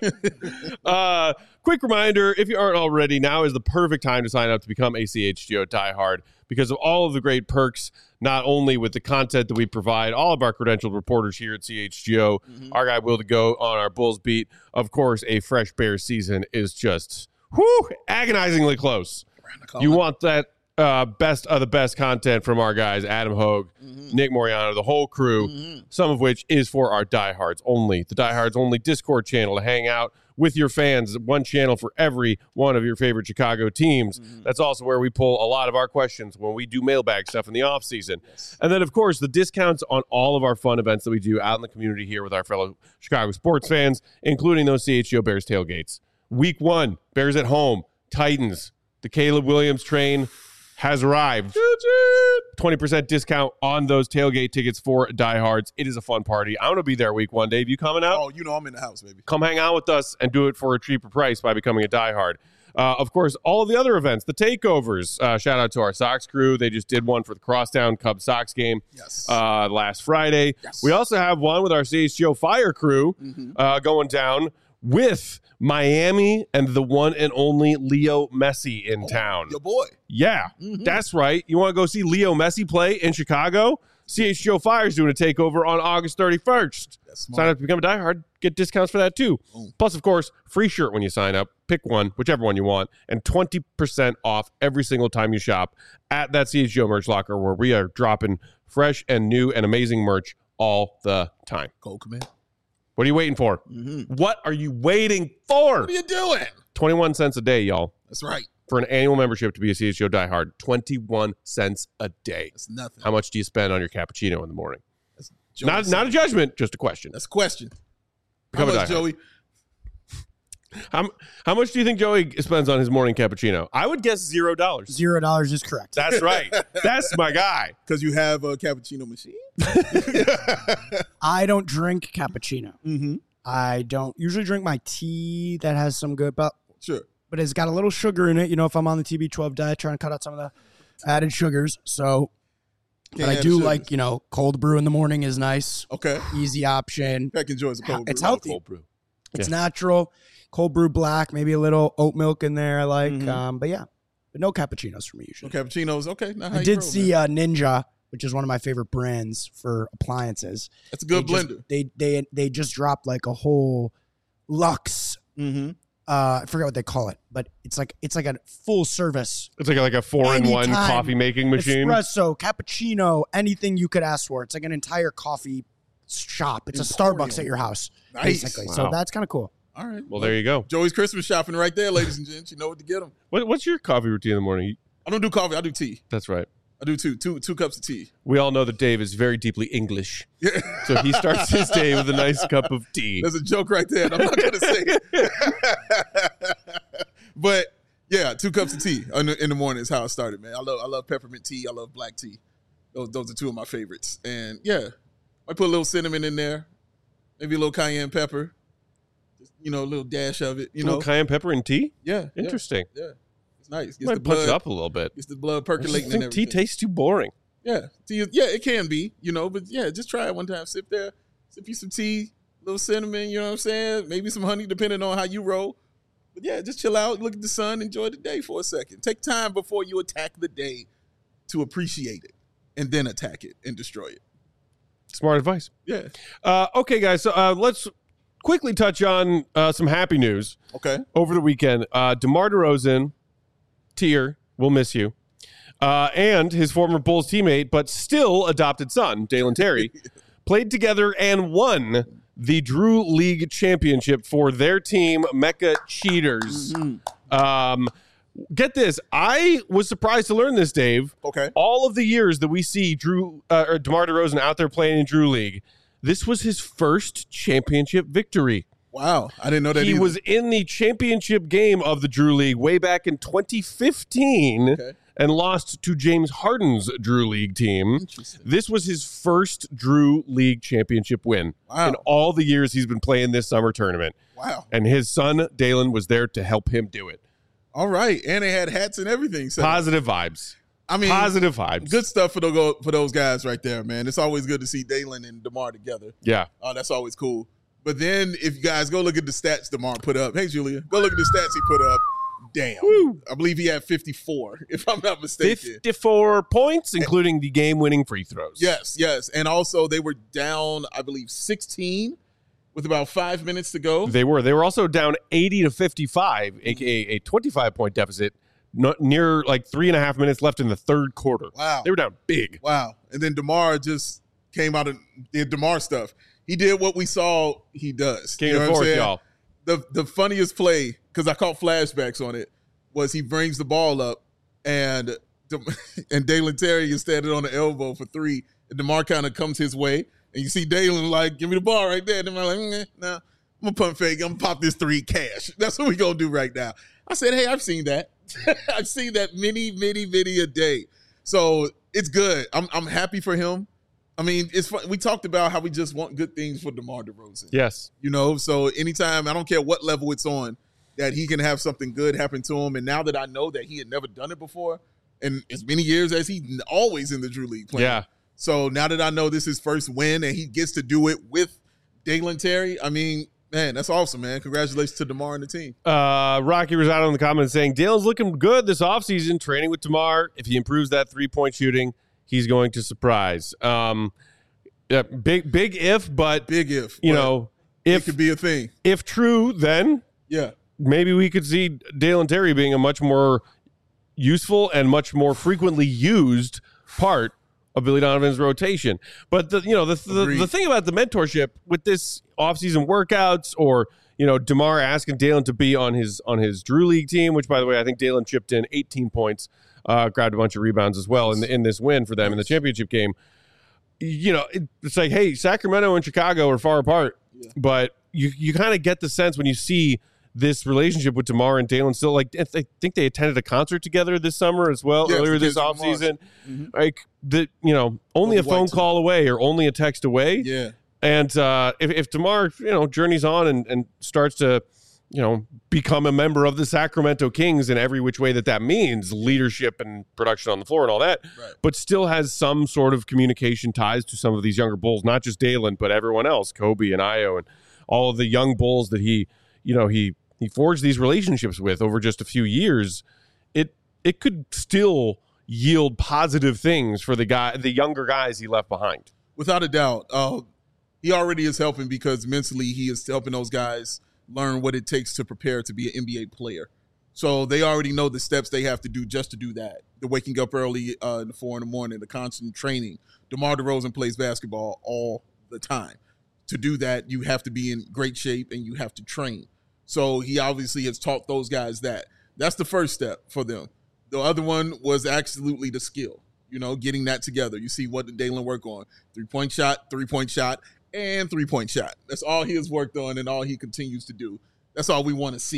uh, quick reminder, if you aren't already, now is the perfect time to sign up to become a C H G O diehard because of all of the great perks, not only with the content that we provide, all of our credentialed reporters here at C H G O, mm-hmm. our guy Will to Go on our Bulls beat. Of course, a fresh Bears season is just whew, agonizingly close. You want that uh, best of the best content from our guys, Adam Hogue, mm-hmm. Nick Moriano, the whole crew, mm-hmm. some of which is for our diehards only. The diehards only Discord channel to hang out with your fans, one channel for every one of your favorite Chicago teams. Mm-hmm. That's also where we pull a lot of our questions when we do mailbag stuff in the offseason. Yes. And then, of course, the discounts on all of our fun events that we do out in the community here with our fellow Chicago sports fans, including those C H G O Bears tailgates. Week one, Bears at home, Titans. The Caleb Williams train has arrived. twenty percent discount on those tailgate tickets for diehards. It is a fun party. I'm going to be there week one. Dave, you coming out? Oh, you know I'm in the house, baby. Come hang out with us and do it for a cheaper price by becoming a diehard. Uh, of course, all of the other events, the takeovers. Uh, shout out to our Sox crew. They just did one for the Crosstown Cubs Sox game yes. uh, last Friday. Yes. We also have one with our C H G O Fire crew mm-hmm. uh, going down with Miami and the one and only Leo Messi in oh, town. Your boy. Yeah, mm-hmm. that's right. You want to go see Leo Messi play in Chicago? C H G O Fire is doing a takeover on August thirty-first. Sign up to become a diehard. Get discounts for that, too. Boom. Plus, of course, free shirt when you sign up. Pick one, whichever one you want, and twenty percent off every single time you shop at that C H G O merch locker where we are dropping fresh and new and amazing merch all the time. Go, command. What are you waiting for? Mm-hmm. What are you waiting for? What are you doing? twenty-one cents a day, y'all. That's right. For an annual membership to be a C H G O diehard, twenty-one cents a day. That's nothing. How much do you spend on your cappuccino in the morning? That's not not a judgment, just a question. That's a question. Become How a much, diehard. Joey? How, how much do you think Joey spends on his morning cappuccino? I would guess zero dollars. Zero dollars is correct. That's right. That's my guy. Because you have a cappuccino machine? I don't drink cappuccino. Mm-hmm. I don't usually drink my tea that has some good, but Sure. but it's got a little sugar in it. You know, if I'm on the T B twelve diet, trying to cut out some of the added sugars. So, Can't but I have do sugars. like, you know, cold brew in the morning is nice. Okay. Easy option. Heck enjoys a cold brew. It's healthy. Cold brew. It's Yeah. natural. Cold brew black, maybe a little oat milk in there. I like, Mhm. um, but yeah, but no cappuccinos for me usually. No cappuccinos. Okay. Now how I you did roll, see man? uh, Ninja, which is one of my favorite brands for appliances. That's a good they just- blender. they they they just dropped like a whole Lux. Mm-hmm. Uh, I forget what they call it, but it's like it's like a full service It's like a, like a four-in-one Anytime. coffee making machine. espresso, cappuccino, anything you could ask for. It's like an entire coffee shop. It's a Emporium. Starbucks at your house, Nice. basically. Wow. So that's kind of cool. All right. Well, there you go. Joey's Christmas shopping right there, ladies and gents. You know what to get them. What, what's your coffee routine in the morning? I don't do coffee. I do tea. That's right. I do two, two, two cups of tea. We all know that Dave is very deeply English. Yeah. So he starts his day with a nice cup of tea. There's a joke right there. And I'm not going to say it. But Yeah, two cups of tea in the, in the morning is how I started, man. I love I love peppermint tea. I love black tea. Those those are two of my favorites. And yeah, I put a little cinnamon in there, maybe a little cayenne pepper, just, you know, a little dash of it. You a know, little cayenne pepper and tea. Yeah, Interesting. Yeah, yeah. It's nice. Gets Might the punch blood it up a little bit. Gets the blood I just percolating think and tea everything. tastes too boring. Yeah, tea is, yeah, it can be, you know, but yeah, just try it one time. Sip there, sip you some tea, a little cinnamon. You know what I'm saying? Maybe some honey, depending on how you roll. But yeah, just chill out, look at the sun, enjoy the day for a second. Take time before you attack the day to appreciate it, and then attack it and destroy it. Smart advice. Yeah. Uh, okay, guys. So uh, let's quickly touch on uh, some happy news. Okay. Over the weekend, uh, DeMar DeRozan, Tier, we'll miss you, uh, and his former Bulls teammate, but still adopted son, Dalen Terry, played together and won the Drew League Championship for their team, Mecca Cheaters. Mm-hmm. Um, get this. I was surprised to learn this, Dave. Okay. All of the years that we see Drew uh, or DeMar DeRozan out there playing in Drew League, this was his first championship victory. Wow. I didn't know that He either. was in the championship game of the Drew League way back in twenty fifteen. Okay. And lost to James Harden's Drew League team. This was his first Drew League championship win Wow. in all the years he's been playing this summer tournament. Wow. And his son, Dalen, was there to help him do it. All right. And they had hats and everything. So, Positive vibes. I mean, Positive vibes. good stuff for, the, for those guys right there, man. It's always good to see Dalen and DeMar together. Yeah. Oh, that's always cool. But then if you guys go look at the stats DeMar put up. Hey, Julia, go look at the stats he put up. Damn. Woo. I believe he had fifty-four, if I'm not mistaken. fifty-four points, including the game-winning free throws. Yes, yes. And also they were down, I believe, sixteen with about five minutes to go. They were. They were also down eighty to fifty-five, a k a a twenty-five point deficit, not near like three and a half minutes left in the third quarter. Wow. They were down big. Wow. And then DeMar just came out and did DeMar stuff. He did what we saw he does. King You know of what I'm fourth, saying? y'all. The the funniest play, because I caught flashbacks on it, was he brings the ball up and and Dalen Terry is standing on the elbow for three. And DeMar kind of comes his way. And you see Dalen like, give me the ball right there. And DeMar like, mm, nah, I'm going to pump fake. I'm going to pop this three cash. That's what we going to do right now. I said, hey, I've seen that. I've seen that many, many, many a day. So it's good. I'm I'm happy for him. I mean, it's fun. We talked about how we just want good things for DeMar DeRozan. Yes. You know, so anytime, I don't care what level it's on, that he can have something good happen to him. And now that I know that he had never done it before, and as many years as he's always in the Drew League playing. Yeah. So now that I know this is his first win and he gets to do it with Dalen Terry, I mean, man, that's awesome, man. Congratulations to DeMar and the team. Uh, Rocky was out in the comments saying, Dalen's looking good this offseason, training with DeMar. If he improves that three-point shooting, he's going to surprise. Um, yeah, big, big if, but, Big if. you but know, it if could be a thing. if true, then Yeah. maybe we could see Dalen Terry being a much more useful and much more frequently used part of Billy Donovan's rotation. But the you know the the, Agreed. the thing about the mentorship with this offseason workouts, or you know DeMar asking Dalen to be on his on his Drew League team, which by the way I think Dalen chipped in eighteen points, uh, grabbed a bunch of rebounds as well in the, in this win for them in the championship game. You know, it, it's like, hey, Sacramento and Chicago are far apart, Yeah. but you you kind of get the sense when you see this relationship with DeMar and Dalen still, like, I think they attended a concert together this summer as well, Yes, earlier the this Kendrick Lamar's. offseason. Mhm. Like, the, you know, only Over a phone White, too. call away or only a text away. Yeah. And uh, if, if DeMar, you know, journeys on and, and starts to, you know, become a member of the Sacramento Kings in every which way that that means, leadership and production on the floor and all that, Right. but still has some sort of communication ties to some of these younger Bulls, not just Dalen, but everyone else, Kobe and Io and all of the young Bulls that he, you know, he he forged these relationships with over just a few years. It it could still yield positive things for the guy, the younger guys he left behind. Without a doubt. Uh, he already is helping because mentally he is helping those guys learn what it takes to prepare to be an N B A player. So they already know the steps they have to do just to do that. The waking up early uh, in the four in the morning, the constant training. DeMar DeRozan plays basketball all the time. To do that, you have to be in great shape and you have to train. So he obviously has taught those guys that. That's the first step for them. The other one was absolutely the skill, you know, getting that together. You see what did Dalen work on? Three-point shot, three-point shot, and three-point shot. That's all he has worked on and all he continues to do. That's all we want to see.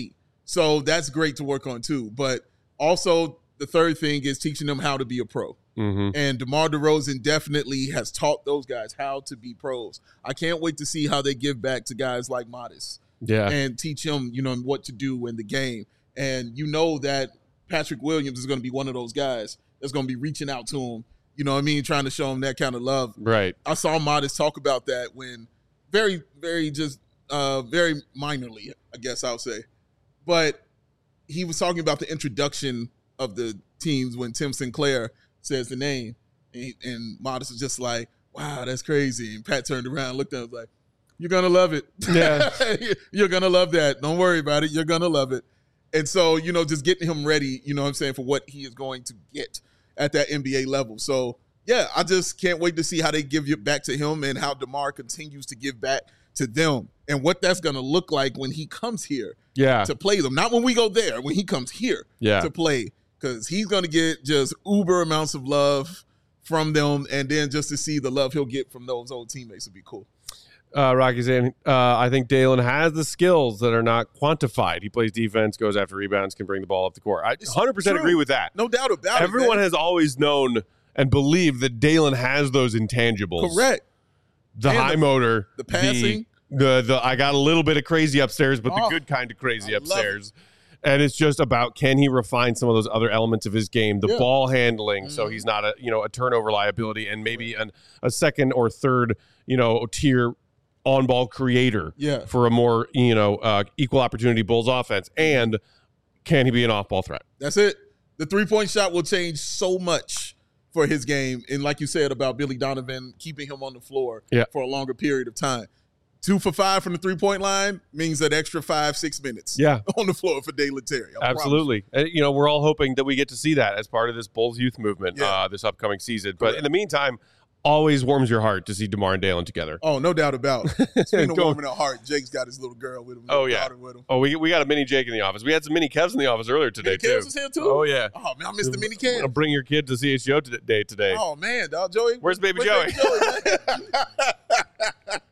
So that's great to work on too. But also the third thing is teaching them how to be a pro. Mm-hmm. And DeMar DeRozan definitely has taught those guys how to be pros. I can't wait to see how they give back to guys like Modest Yeah. and teach him, you know, what to do in the game. And you know that Patrick Williams is going to be one of those guys that's going to be reaching out to him, you know what I mean, trying to show him that kind of love. Right. I saw Modest talk about that when very, very just uh, very minorly, I guess I'll say. But he was talking about the introduction of the teams when Tim Sinclair says the name. And, he, and Modest was just like, wow, that's crazy. And Pat turned around and looked at him and was like, you're going to love it. Yeah. You're going to love that. Don't worry about it. You're going to love it. And so, you know, just getting him ready, you know what I'm saying, for what he is going to get at that N B A level. So, yeah, I just can't wait to see how they give it back to him and how DeMar continues to give back to them and what that's going to look like when he comes here Yeah. to play them. Not when we go there, when he comes here Yeah. to play, because he's going to get just uber amounts of love from them, and then just to see the love he'll get from those old teammates would be cool. Uh, Rocky's saying, uh, I think Dalen has the skills that are not quantified. He plays defense, goes after rebounds, can bring the ball up the court. I one hundred percent True. agree with that. No doubt about Everyone it. Everyone has always known and believed that Dalen has those intangibles. Correct. The And high the- motor. the passing. The, the, the, I got a little bit of crazy upstairs, but Oh, the good kind of crazy I love upstairs. And it's just about, can he refine some of those other elements of his game, the Yeah. ball handling, so Mhm. he's not a you know a turnover liability, and maybe an, a second or third you know tier on-ball creator Yeah. for a more you know uh, equal opportunity Bulls offense. And can he be an off-ball threat? That's it. The three-point shot will change so much for his game. And like you said about Billy Donovan, keeping him on the floor Yeah. for a longer period of time. Two for five from the three-point line means that extra five, six minutes Yeah, on the floor for Dalen Terry. I promise. absolutely. And, you know, we're all hoping that we get to see that as part of this Bulls youth movement Yeah. uh, this upcoming season. But Correct. in the meantime, always warms your heart to see DeMar and Dalen together. Oh, no doubt about it. Speaking of Go- warming our heart, Jake's got his little girl with him. Oh, little yeah. daughter with him. Oh, we we got a mini Jake in the office. We had some mini Kevs in the office earlier today, Mini too. Kevs was here, too? Oh, yeah. Oh, man, I missed the mini I'm gonna Kev. bring your kid to C H G O today. today. Oh, man, dog. Joey. Where's baby where's Joey? Baby Joey, man?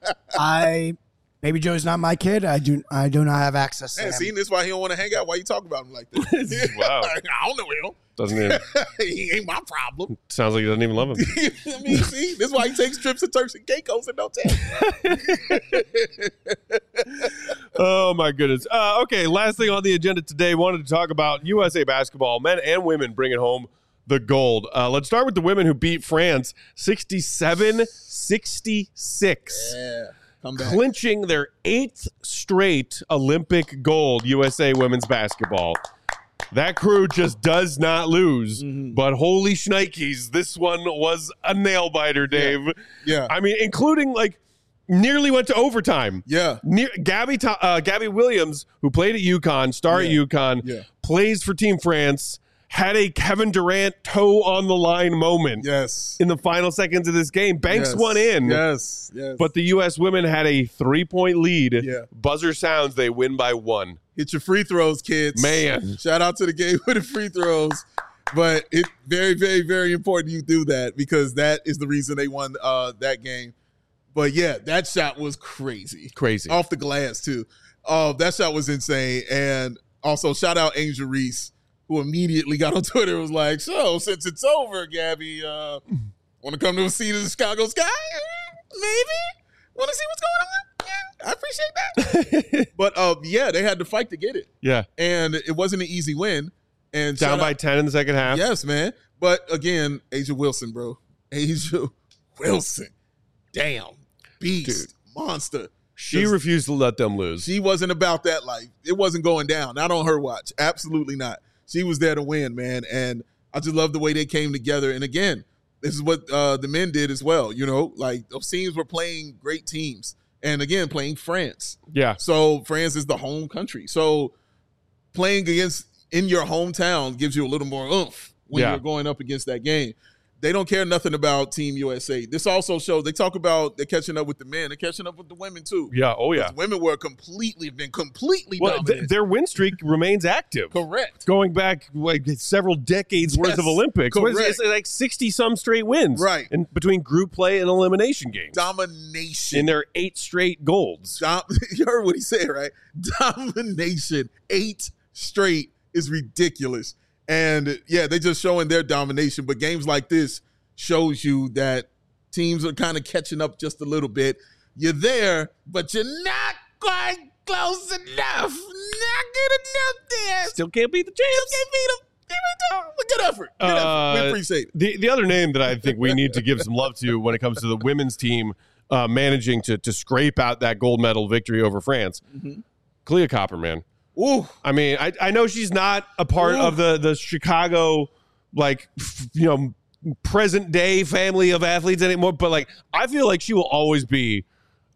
I Baby Joe's not my kid. I do I do not have access to Man, him. see, this is why he don't want to hang out. Why you talk about him like that? Wow. I don't know him. Doesn't even, He ain't my problem. sounds like he doesn't even love him. I mean, see, this is why he takes trips to Turks and Caicos and don't tell. Oh, my goodness. Uh, okay, last thing on the agenda today, wanted to talk about U S A basketball, men and women bringing home the gold. Uh, let's start with the women who beat France sixty-seven sixty-six. Yeah, come back. Clinching their eighth straight Olympic gold, U S A women's basketball. That crew just does not lose. Mhm. But holy shnikes, this one was a nail biter, Dave. Yeah, I mean, including like nearly went to overtime. yeah, Near, Gabby To- uh, Gabby Williams, who played at UConn, star Yeah. at UConn, yeah, plays for Team France, had a Kevin Durant toe on the line moment yes. in the final seconds of this game. Banks Yes. one in. Yes, yes. But the U S women had a three-point lead. Yeah. Buzzer sounds, they win by one. Hit your free throws, kids. Man. Shout out to the game with the free throws. But it very, very, very important you do that because that is the reason they won uh, that game. But yeah, that shot was crazy. Crazy. Off the glass, too. Uh, that shot was insane. And also, shout out Angel Reese, who immediately got on Twitter and was like, so, since it's over, Gabby, uh, want to come to a seat in the Chicago sky? Maybe? Want to see what's going on? Yeah, I appreciate that. But uh, yeah, they had to fight to get it. Yeah. And it wasn't an easy win. And Down shout by out- ten in the second half. Yes, man. But again, Asia Wilson, bro. Asia Wilson. Damn. Beast. Monster. She Just- refused to let them lose. She wasn't about that life. It wasn't going down. Not on her watch. Absolutely not. She was there to win, man. And I just love the way they came together. And again, this is what uh, the men did as well. You know, like those teams were playing great teams. And again, playing France. yeah. So France is the home country. So playing against in your hometown gives you a little more oomph when Yeah. you're going up against that game. They don't care nothing about Team U S A. This also shows they talk about they're catching up with the men. They're catching up with the women too. Yeah. Oh, yeah. The women were completely been completely Well, th- dominant. their win streak remains active. Correct. Going back like several decades worth Yes, of Olympics. What is it? correct. It's like sixty some straight wins. Right. In between group play and elimination games. Domination. In their eight straight golds. Dom- you heard what he said, right? Domination. Eight straight is ridiculous. And, yeah, they just showing their domination. But games like this shows you that teams are kind of catching up just a little bit. You're there, but you're not quite close enough. Not good enough there. Still can't beat the champs. Still can't beat them. Good effort. Good effort. Uh, we appreciate it. The the other name that I think we need to give some love to when it comes to the women's team uh, managing to to scrape out that gold medal victory over France, mm-hmm. Kalia Copperman. Ooh. I mean, I, I know she's not a part Ooh. of the the Chicago, like, f- you know, present day family of athletes anymore, but like I feel like she will always be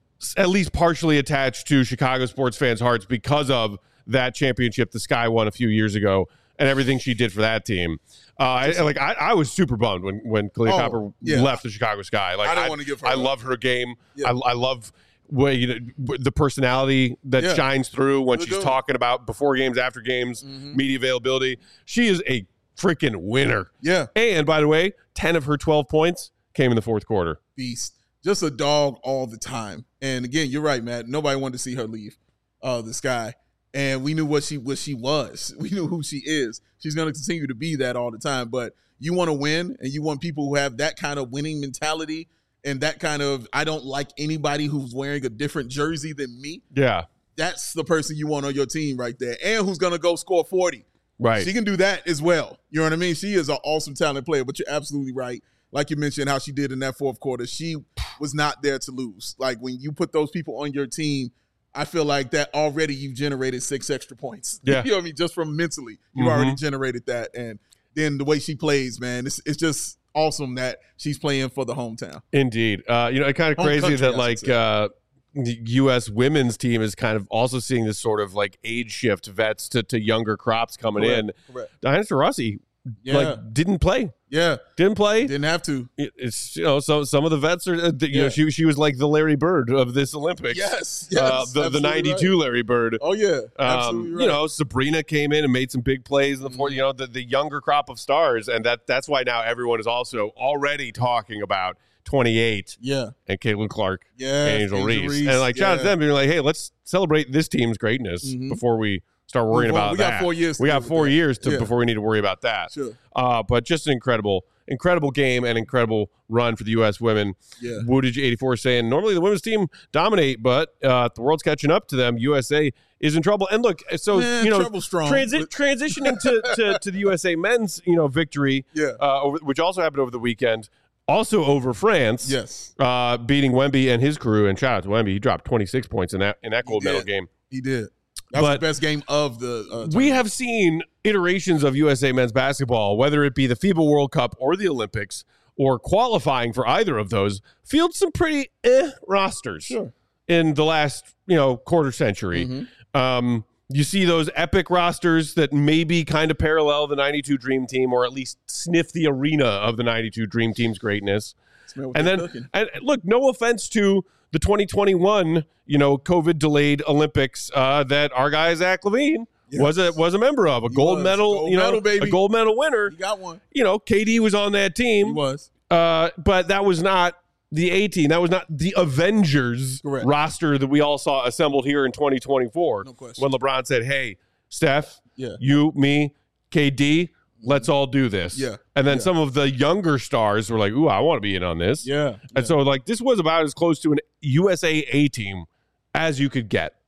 at least partially attached to Chicago sports fans' hearts because of that championship the Sky won a few years ago. And everything she did for that team, uh, I, like I, I was super bummed when when Kalia Oh, Copper yeah. left the Chicago Sky. Like I don't I, wanna give her I up. love her game. Yeah. I, I love what, you know, the personality that Yeah. shines through when Good she's going. talking about before games, after games, Mhm. media availability. She is a freaking winner. Yeah. And by the way, ten of her twelve points came in the fourth quarter. Beast. Just a dog all the time. And again, you're right, Matt. Nobody wanted to see her leave uh, the Sky. And we knew what she what she was. We knew who she is. She's going to continue to be that all the time. But you want to win, and you want people who have that kind of winning mentality and that kind of, I don't like anybody who's wearing a different jersey than me. Yeah. That's the person you want on your team right there. And who's going to go score forty. Right. She can do that as well. You know what I mean? She is an awesome talent player, but you're absolutely right. Like you mentioned how she did in that fourth quarter, she was not there to lose. Like when you put those people on your team, I feel like that already you've generated six extra points. Yeah. You know what I mean? Just from mentally, you've Mhm. already generated that. And then the way she plays, man, it's it's just awesome that she's playing for the hometown. Indeed. Uh, you know, it's kind of Home crazy country, I that should like say. uh, the U S women's team is kind of also seeing this sort of like age shift, vets to, to younger crops coming in. Correct. Diana Taurasi Yeah. like didn't play, yeah. didn't play. Didn't have to. It- It's you know so some of the vets are uh, you Yeah. know she she was like the Larry Bird of this Olympics. Yes. yes uh, the the absolutely ninety-two right. Larry Bird. Oh, yeah. Absolutely Um, right. You know, Sabrina came in and made some big plays in the fourth. Mhm. You know, the, the younger crop of stars, and that that's why now everyone is also already talking about twenty-eight yeah. and Caitlin Clark, Yeah. Angel Reese, and like shout out to them being like, hey, let's celebrate this team's greatness Mhm. before we start worrying Move on. about We that. got four years to We deal got with four that. years to Yeah. before we need to worry about that. Sure. Uh, but just an incredible, incredible game and incredible run for the U S women. Yeah. Woodage eighty-four saying normally the women's team dominate, but uh, the world's catching up to them. U S A is in trouble. And look, so Man, you know, trouble strong, transi- but- transitioning to, to to the U S A men's you know victory, Yeah. uh, over, which also happened over the weekend, also over France. Yes. Uh, beating Wemby and his crew. And shout out to Wemby, he dropped twenty-six points in that in that He gold medal did. game. He did. That was But- the best game of the uh, We tournament. have seen iterations of U S A men's basketball, whether it be the FIBA World Cup or the Olympics, or qualifying for either of those, field some pretty eh rosters Sure. in the last you know quarter century. Mhm. Um, you see those epic rosters that maybe kind of parallel the ninety-two Dream Team, or at least sniff the arena of the ninety-two Dream Team's greatness. Smell what And they're then, cooking. and look, no offense to the twenty twenty-one, you know, COVID delayed Olympics uh, that our guy Zach Levine Yes. was a was a member of, a He gold was. medal, Gold you know, medal, baby. a gold medal winner. He got one. You know, K D was on that He team, was. uh, but that was not the A team. That was not the Avengers Correct. roster that we all saw assembled here in twenty twenty-four. No question. When LeBron said, "Hey, Steph, Yeah. you, me, K D, let's all do this." Yeah. And then Yeah. some of the younger stars were like, "Ooh, I want to be in on this." Yeah. And so, like, this was about as close to an U S A A team as you could get.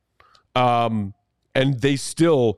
Um, and they still,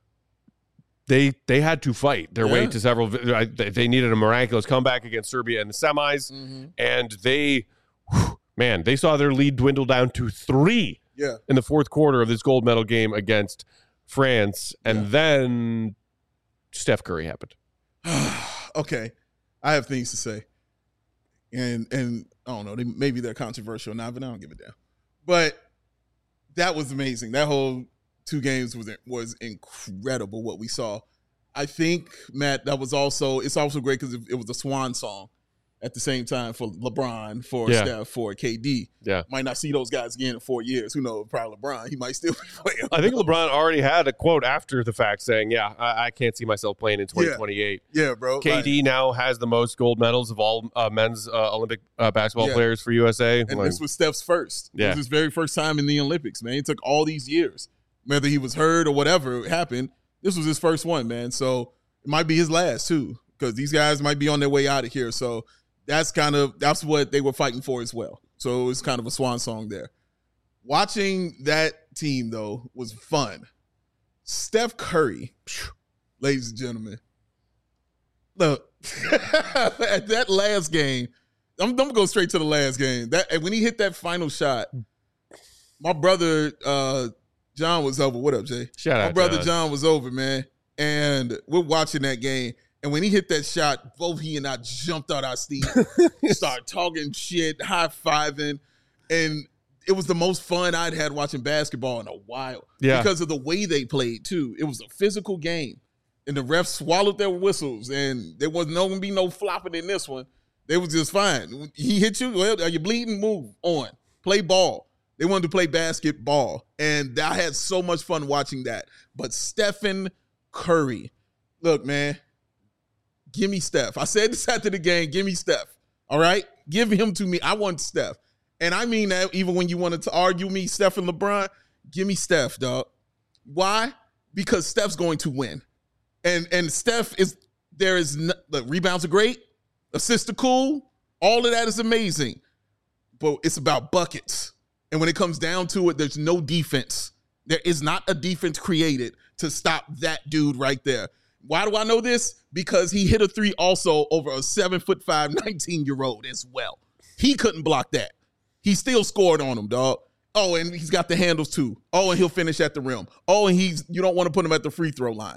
they they had to fight their way Yeah. to several. They they needed a miraculous comeback against Serbia in the semis, Mhm. and they, whew, man, they saw their lead dwindle down to three Yeah. in the fourth quarter of this gold medal game against France, and Yeah. then Steph Curry happened. Okay. I have things to say. And and I don't know, they, maybe they're controversial now, but I don't give a damn. But that was amazing. That whole two games was was incredible what we saw. I think, Matt, that was also, it's also great because it, it was a swan song at the same time for LeBron, for Yeah. Steph, for K D. Yeah. Might not see those guys again in four years. Who knows? Probably LeBron. He might still be playing. I think LeBron already had a quote after the fact saying, "Yeah, I, I can't see myself playing in twenty twenty-eight." Yeah, bro. K D Like, now has the most gold medals of all uh, men's uh, Olympic uh, basketball Yeah. players for U S A. and Like, this was Steph's first. It Yeah. was his very first time in the Olympics, man. It took all these years. Whether he was hurt or whatever happened, This was his first one, man. So it might be his last too, because these guys might be on their way out of here. So that's kind of that's what they were fighting for as well. So it was kind of a swan song there. Watching that team though was fun. Steph Curry, ladies and gentlemen. Look, at that last game, I'm, I'm gonna go straight to the last game. That when he hit that final shot, my brother uh, John was over. What up, Jay? Shout out, my brother John. John was over, man, and we're watching that game. And when he hit that shot, both he and I jumped out our seat, started talking shit, high fiving, and it was the most fun I'd had watching basketball in a while. Yeah, because of the way they played too. It was a physical game. And the refs swallowed their whistles, and there was no going to be no flopping in this one. They was just fine. He hit you, well, are you bleeding? Move on. Play ball. They wanted to play basketball, and I had so much fun watching that. But Stephen Curry, look, man, give me Steph. I said this after the game, give me Steph, all right? Give him to me. I want Steph. And I mean that even when you wanted to argue me, Steph and LeBron, give me Steph, dog. Why? Because Steph's going to win. And and Steph is, there is, no, the rebounds are great, assists are cool, all of that is amazing. But it's about buckets. And when it comes down to it, there's no defense. There is not a defense created to stop that dude right there. Why do I know this? Because he hit a three also over a seven foot five, nineteen-year-old as well. He couldn't block that. He still scored on him, dog. Oh, and he's got the handles too. Oh, and he'll finish at the rim. Oh, and he's you don't want to put him at the free throw line.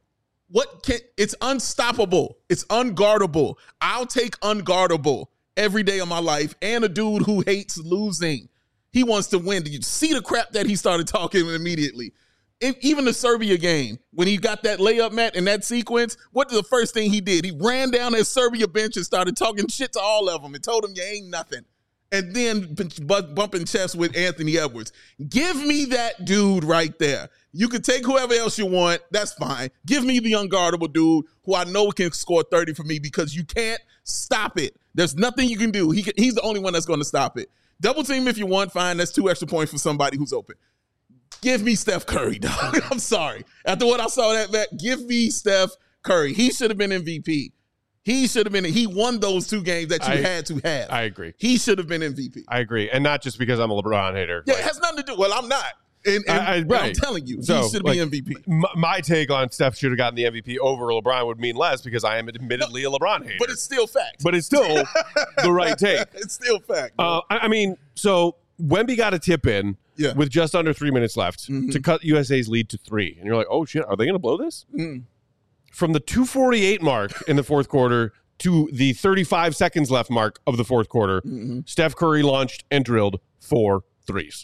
What can it's unstoppable. It's unguardable. I'll take unguardable every day of my life. And a dude who hates losing. He wants to win. Did you see the crap that he started talking immediately? If, even the Serbia game, when he got that layup, Matt, in that sequence, what the first thing he did? He ran down that Serbia bench and started talking shit to all of them and told them you ain't nothing. And then bumping chests with Anthony Edwards. Give me that dude right there. You can take whoever else you want. That's fine. Give me the unguardable dude who I know can score thirty for me because you can't stop it. There's nothing you can do. He can, he's the only one that's going to stop it. Double team if you want. Fine. That's two extra points for somebody who's open. Give me Steph Curry, dog. I'm sorry. After what I saw that back, give me Steph Curry. He should have been M V P. He should have been. He won those two games that you I, had to have. I agree. He should have been M V P. I agree, and not just because I'm a LeBron hater. Yeah, like, it has nothing to do. Well, I'm not. And, and, I, I, right. I'm telling you, so, he should like, be M V P. M- my take on Steph should have gotten the M V P over LeBron would mean less because I am admittedly no, a LeBron hater. But it's still fact. But it's still the right take. It's still fact. Uh, I, I mean, so Wemby got a tip in yeah. with just under three minutes left mm-hmm. to cut U S A's lead to three. And you're like, oh, shit, are they going to blow this? Mm. From the two forty-eight mark in the fourth quarter to the thirty-five seconds left mark of the fourth quarter, mm-hmm. Steph Curry launched and drilled four threes.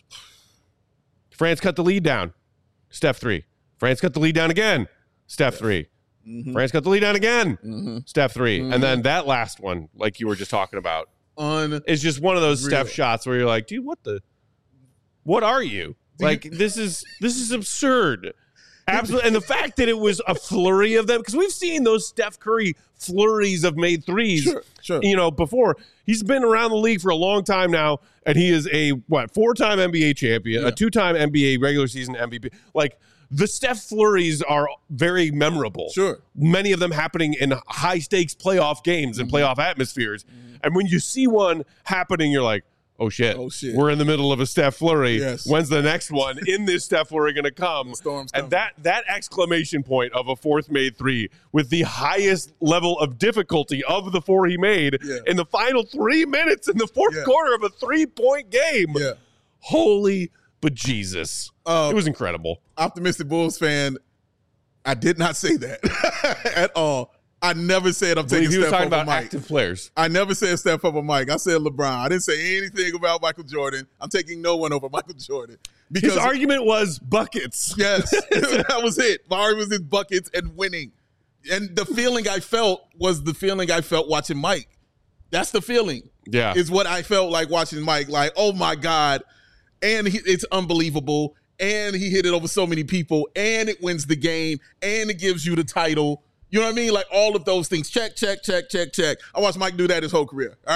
France cut the lead down. Steph three. France cut the lead down again. Steph three. Mm-hmm. France cut the lead down again. Mm-hmm. Steph three. Mm-hmm. And then that last one, like you were just talking about, Un- is just one of those real. Steph shots where you're like, dude, what the, what are you? Do like, you- this is, this is absurd. Absolutely. And the fact that it was a flurry of them, because we've seen those Steph Curry flurries of made threes, Sure, sure. you know, before. He's been around the league for a long time now, and he is a, what, four-time N B A champion, Yeah. a two-time N B A regular season M V P. Like, the Steph flurries are very memorable. Sure. Many of them happening in high-stakes playoff games and Mm-hmm. playoff atmospheres. Mm-hmm. And when you see one happening, you're like, oh shit. Oh, shit. We're in the middle of a Steph flurry. Yes. When's the next one in this Steph flurry going to come? Storm's coming. And that that exclamation point of a fourth made three with the highest level of difficulty of the four he made Yeah. in the final three minutes in the fourth Yeah. quarter of a three-point game. Yeah. Holy bejesus. Uh, it was incredible. Optimistic Bulls fan, I did not say that at all. I never said I'm I believe taking he was Steph talking over about Mike. active players. I never said Steph over Mike. I said LeBron. I didn't say anything about Michael Jordan. I'm taking no one over Michael Jordan. Because His argument was buckets. yes, that was it. My argument was in buckets and winning. And the feeling I felt was the feeling I felt watching Mike. That's the feeling. Yeah. Is what I felt like watching Mike. Like, oh my God. And he, it's unbelievable. And he hit it over so many people. And it wins the game. And it gives you the title. You know what I mean? Like all of those things. Check, check, check, check, check. I watched Mike do that his whole career. All right.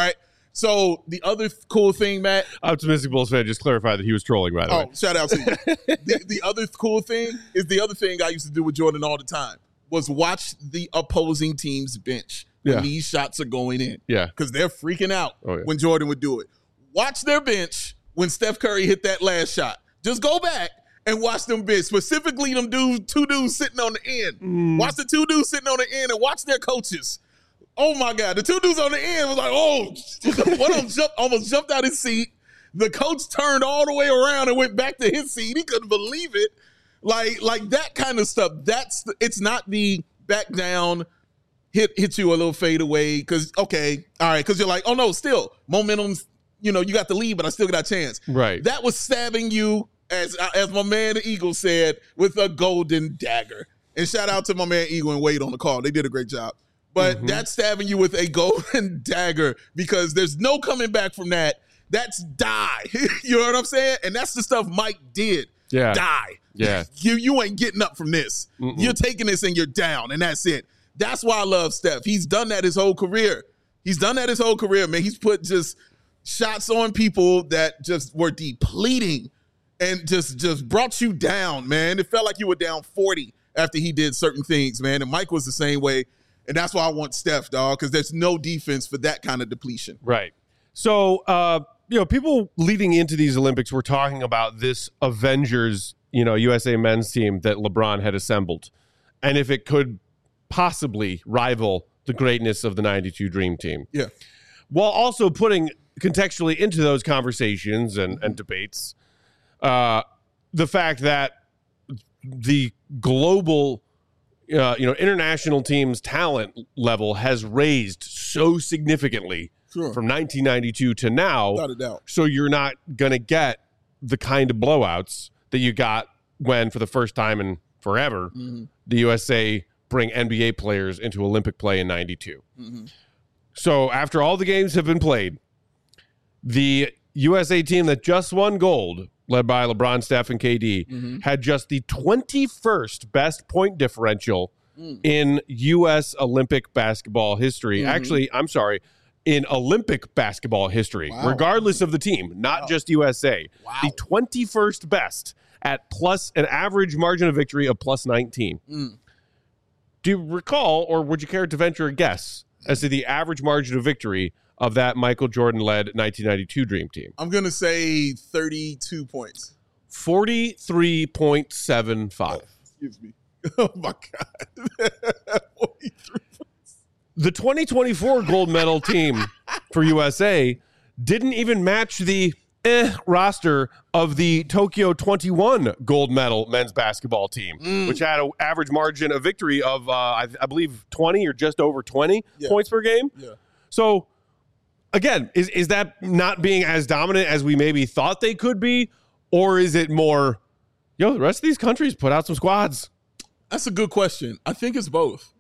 So the other th- cool thing, Matt. Optimistic Bulls fan just clarified that he was trolling, by the Oh, way. shout out to you. the, the other cool thing is the other thing I used to do with Jordan all the time was watch the opposing team's bench when Yeah. these shots are going in. Yeah. Because they're freaking out Oh, yeah. when Jordan would do it. Watch their bench when Steph Curry hit that last shot. Just go back and watch them bench, specifically them dudes, two dudes sitting on the end. Mm. Watch the two dudes sitting on the end and watch their coaches. Oh, my God. The two dudes on the end was like, oh, one of them jumped, almost jumped out his seat. The coach turned all the way around and went back to his seat. He couldn't believe it. Like, like that kind of stuff. That's the, it's not the back down, hit hit you a little fade away. Because, okay, all right, because you're like, oh, no, still, momentum's, you know, you got the lead, but I still got a chance. Right. That was stabbing you, as as my man the Eagle said, with a golden dagger. And shout out to my man Eagle and Wade on the call. They did a great job. But Mm-hmm. that's stabbing you with a golden dagger because there's no coming back from that. That's die. You know what I'm saying? And that's the stuff Mike did. Yeah. Die. Yeah. You you ain't getting up from this. Mm-mm. You're taking this and you're down, and that's it. That's why I love Steph. He's done that his whole career. He's done that his whole career, man. He's put just shots on people that just were depleting and just just brought you down, man. It felt like you were down forty after he did certain things, man. And Mike was the same way. And that's why I want Steph, dog, because there's no defense for that kind of depletion. Right. So, uh, you know, people leading into these Olympics were talking about this Avengers, you know, U S A men's team that LeBron had assembled, and if it could possibly rival the greatness of the ninety-two Dream Team. Yeah. While also putting contextually into those conversations and, and debates uh, the fact that the global Uh, you know, international teams' talent level has raised so significantly Sure. from nineteen ninety-two to now. Without a doubt. So you're not going to get the kind of blowouts that you got when, for the first time in forever, Mm-hmm. the U S A bring N B A players into Olympic play in ninety-two. Mm-hmm. So after all the games have been played, the U S A team that just won gold, led by LeBron, Steph, and K D, Mm-hmm. had just the twenty-first best point differential Mm. in U S Olympic basketball history. Mhm. Actually, I'm sorry, in Olympic basketball history, Wow. regardless of the team, not Wow. just U S A. Wow. The twenty-first best at plus an average margin of victory of plus nineteen. Mm. Do you recall, or would you care to venture a guess as to the average margin of victory of that Michael Jordan-led nineteen ninety-two Dream Team? I'm going to say thirty-two points. forty-three point seven five. Excuse me. Oh, my God. forty-three points. The twenty twenty-four gold medal team for U S A didn't even match the eh roster of the Tokyo twenty-one gold medal men's basketball team, Mm. which had an average margin of victory of, uh, I, I believe, twenty or just over twenty Yeah. points per game. Yeah. So, again, is, is that not being as dominant as we maybe thought they could be? Or is it more, yo, the rest of these countries put out some squads? That's a good question. I think it's both.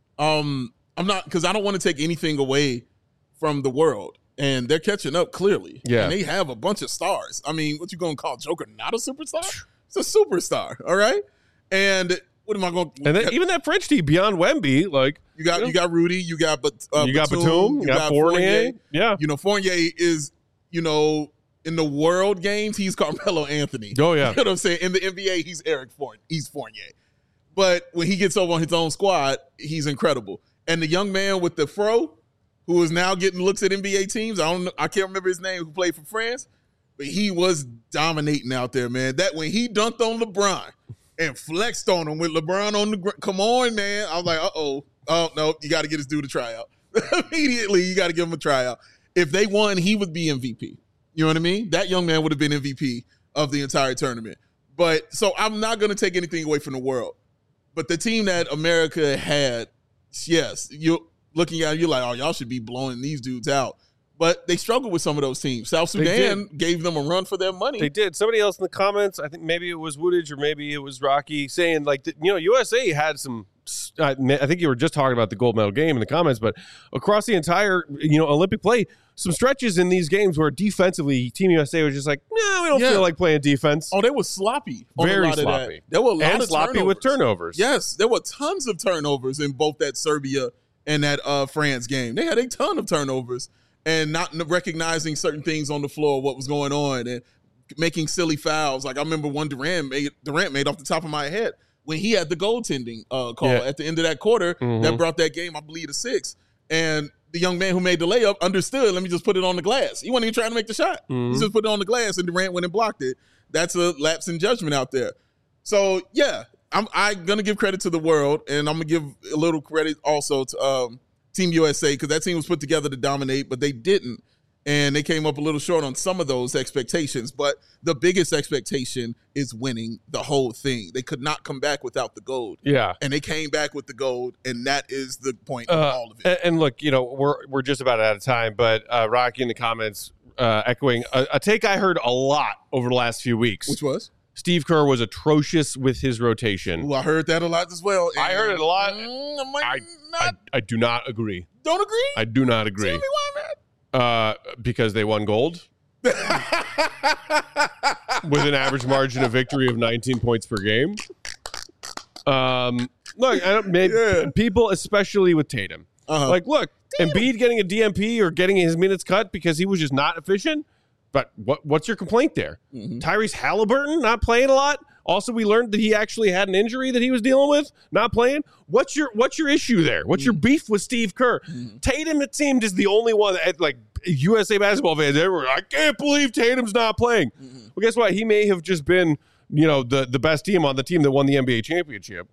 Um, I'm not, because I don't want to take anything away from the world. And they're catching up clearly. Yeah. And they have a bunch of stars. I mean, what you going to call Joker not a superstar? It's a superstar, all right? And what am I going to... And then even that French team beyond Wemby, like, You got you know, you got Rudy, you got but uh, you got Batum, you got Fournier. Yeah. You know, Fournier is, you know, in the world games, he's Carmelo Anthony. Oh, yeah. You know what I'm saying? In the N B A, he's Eric Fournier. He's Fournier. But when he gets over on his own squad, he's incredible. And the young man with the fro, who is now getting looks at N B A teams, I don't know, I can't remember his name, who played for France, but he was dominating out there, man. That when he dunked on LeBron and flexed on him with LeBron on the ground, come on, man. I was like, uh-oh. Oh, no, you got to get this dude a tryout. Immediately, you got to give him a tryout. If they won, he would be M V P. You know what I mean? That young man would have been M V P of the entire tournament. But so I'm not going to take anything away from the world. But the team that America had, yes, you're looking at it, you're like, oh, y'all should be blowing these dudes out. But they struggled with some of those teams. South Sudan gave them a run for their money. They did. Somebody else in the comments, I think maybe it was Woodage or maybe it was Rocky, saying like, you know, U S A had some, I think you were just talking about the gold medal game in the comments, but across the entire, you know, Olympic play, some stretches in these games where defensively Team U S A was just like, no, we don't Yeah. feel like playing defense. Oh, they were sloppy. On Very a lot sloppy. Of that. There were a lot and of sloppy turnovers. with turnovers. Yes, there were tons of turnovers in both that Serbia and that uh, France game. They had a ton of turnovers. and not recognizing certain things on the floor, what was going on, and making silly fouls. Like I remember one Durant made Durant made off the top of my head when he had the goaltending uh, call Yeah. at the end of that quarter Mhm. that brought that game, I believe, to six. And the young man who made the layup understood, let me just put it on the glass. He wasn't even trying to make the shot. Mhm. He just put it on the glass, and Durant went and blocked it. That's a lapse in judgment out there. So, yeah, I'm, I'm going to give credit to the world, and I'm going to give a little credit also to um, Team U S A, because that team was put together to dominate, but they didn't. And they came up a little short on some of those expectations. But the biggest expectation is winning the whole thing. They could not come back without the gold. Yeah. And they came back with the gold, and that is the point of Uh, all of it. and, and look, you know, we're we're just about out of time, but uh, Rocky in the comments uh, echoing a, a take I heard a lot over the last few weeks. Which was? Steve Kerr was atrocious with his rotation. Ooh, I heard that a lot as well. I heard it a lot. Mm, I might I, not, I I do not agree. don't agree. I do not agree. Tell me why, man. Uh, because they won gold with an average margin of victory of nineteen points per game. Um, look, I don't, maybe, Yeah. people, especially with Tatum, Uh-huh. like, look, Embiid getting a D M P or getting his minutes cut because he was just not efficient. But what what's your complaint there? Mhm. Tyrese Halliburton not playing a lot. Also, we learned that he actually had an injury that he was dealing with, not playing. What's your what's your issue there? What's your beef with Steve Kerr? Tatum, it seemed, is the only one that, like, U S A basketball fans everywhere. I can't believe Tatum's not playing. Well, guess what? He may have just been, you know, the the best team on the team that won the N B A championship.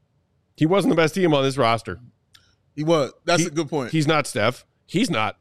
He wasn't the best team on this roster. He was. That's He- a good point. He's not Steph. He's not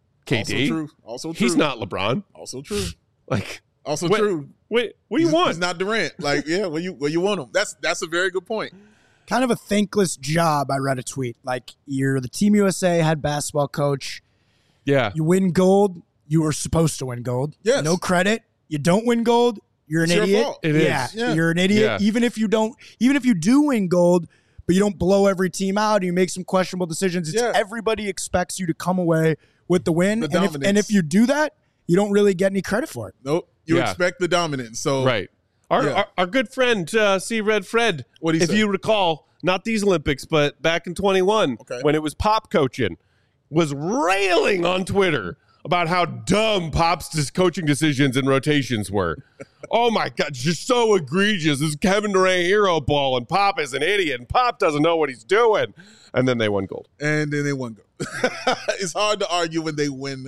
K D. Also true. Also true. He's not LeBron. Also true. Like, Also What- true. wait, what do you He's- want? He's not Durant. Like, yeah, where you where you want him. That's that's a very good point. Kind of a thankless job. I read a tweet. Like, you're the Team U S A head basketball coach. Yeah. You win gold. You were supposed to win gold. Yes. No credit. You don't win gold. You're an It's your idiot. fault. It is. yeah, Yeah. You're an idiot. Yeah. Even if you don't, even if you do win gold, but you don't blow every team out and you make some questionable decisions, it's Yeah. everybody expects you to come away with the win. The and, if, and dominance. if you do that, you don't really get any credit for it. Nope. You Yeah. expect the dominance. So Right. Our, Yeah. our our good friend uh, C. Red Fred, What'd he if say? you recall, not these Olympics, but back in twenty-one, Okay. when it was Pop coaching, was railing on Twitter about how dumb Pop's dis- coaching decisions and rotations were. Oh my God, just so egregious. This is Kevin Durant hero ball, and Pop is an idiot, and Pop doesn't know what he's doing. And then they won gold. and then they won gold. It's hard to argue when they win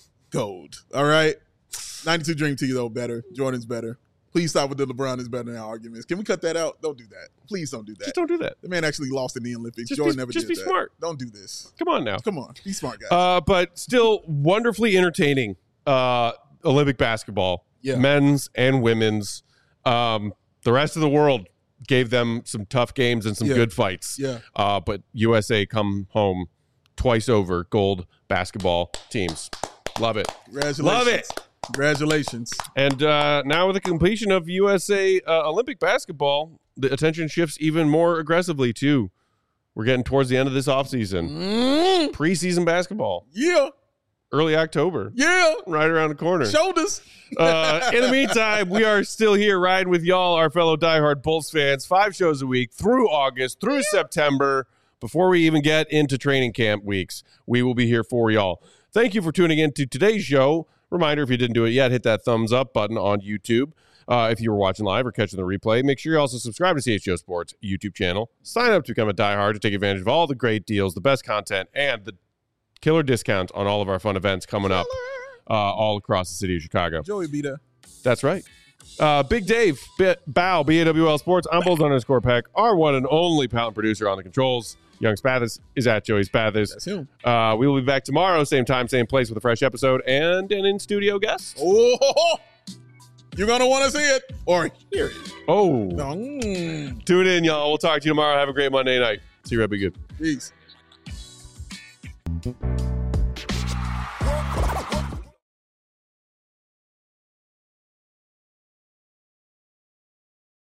gold. All right. ninety-two Dream Team, though, better. Jordan's better. Please stop with the LeBron is better now arguments. Can we cut that out? Don't do that. Please don't do that. Just don't do that. The man actually lost in the Olympics. Just Jordan be- never just did be that. smart. Don't do this. Come on now. Come on. Be smart, guys. Uh, but still wonderfully entertaining uh, Olympic basketball, Yeah. men's and women's. Um, the rest of the world gave them some tough games and some Yeah. good fights. Yeah. Uh, but U S A come home twice over gold basketball teams. Love it. Congratulations. Love it. Congratulations. And uh, now with the completion of U S A uh, Olympic basketball, the attention shifts even more aggressively too. We're getting towards the end of this offseason. Mm, Preseason basketball, yeah. early October, Yeah. right around the corner. Shoulders. Uh, in the meantime, we are still here riding with y'all, our fellow diehard Bulls fans, five shows a week through August, through September. Before we even get into training camp weeks, we will be here for y'all. Thank you for tuning in to today's show. Reminder, if you didn't do it yet, hit that thumbs up button on YouTube. Uh, if you were watching live or catching the replay, make sure you also subscribe to C H G O Sports YouTube channel. Sign up to become a diehard to take advantage of all the great deals, the best content, and the killer discounts on all of our fun events coming up uh, all across the city of Chicago. Joey be there. That's right. Uh, Big Dave, B- Bow, B A W L Sports, I'm Bulls underscore Peck, our one and only pound producer on the controls. Young Spathis is at Joey Spathis. That's him. Uh, we will be back tomorrow, same time, same place, with a fresh episode and an in-studio guest. Oh, you're going to want to see it or hear it. Oh. Mm, Tune in, y'all. We'll talk to you tomorrow. Have a great Monday night. See you, Red. Be good. peace.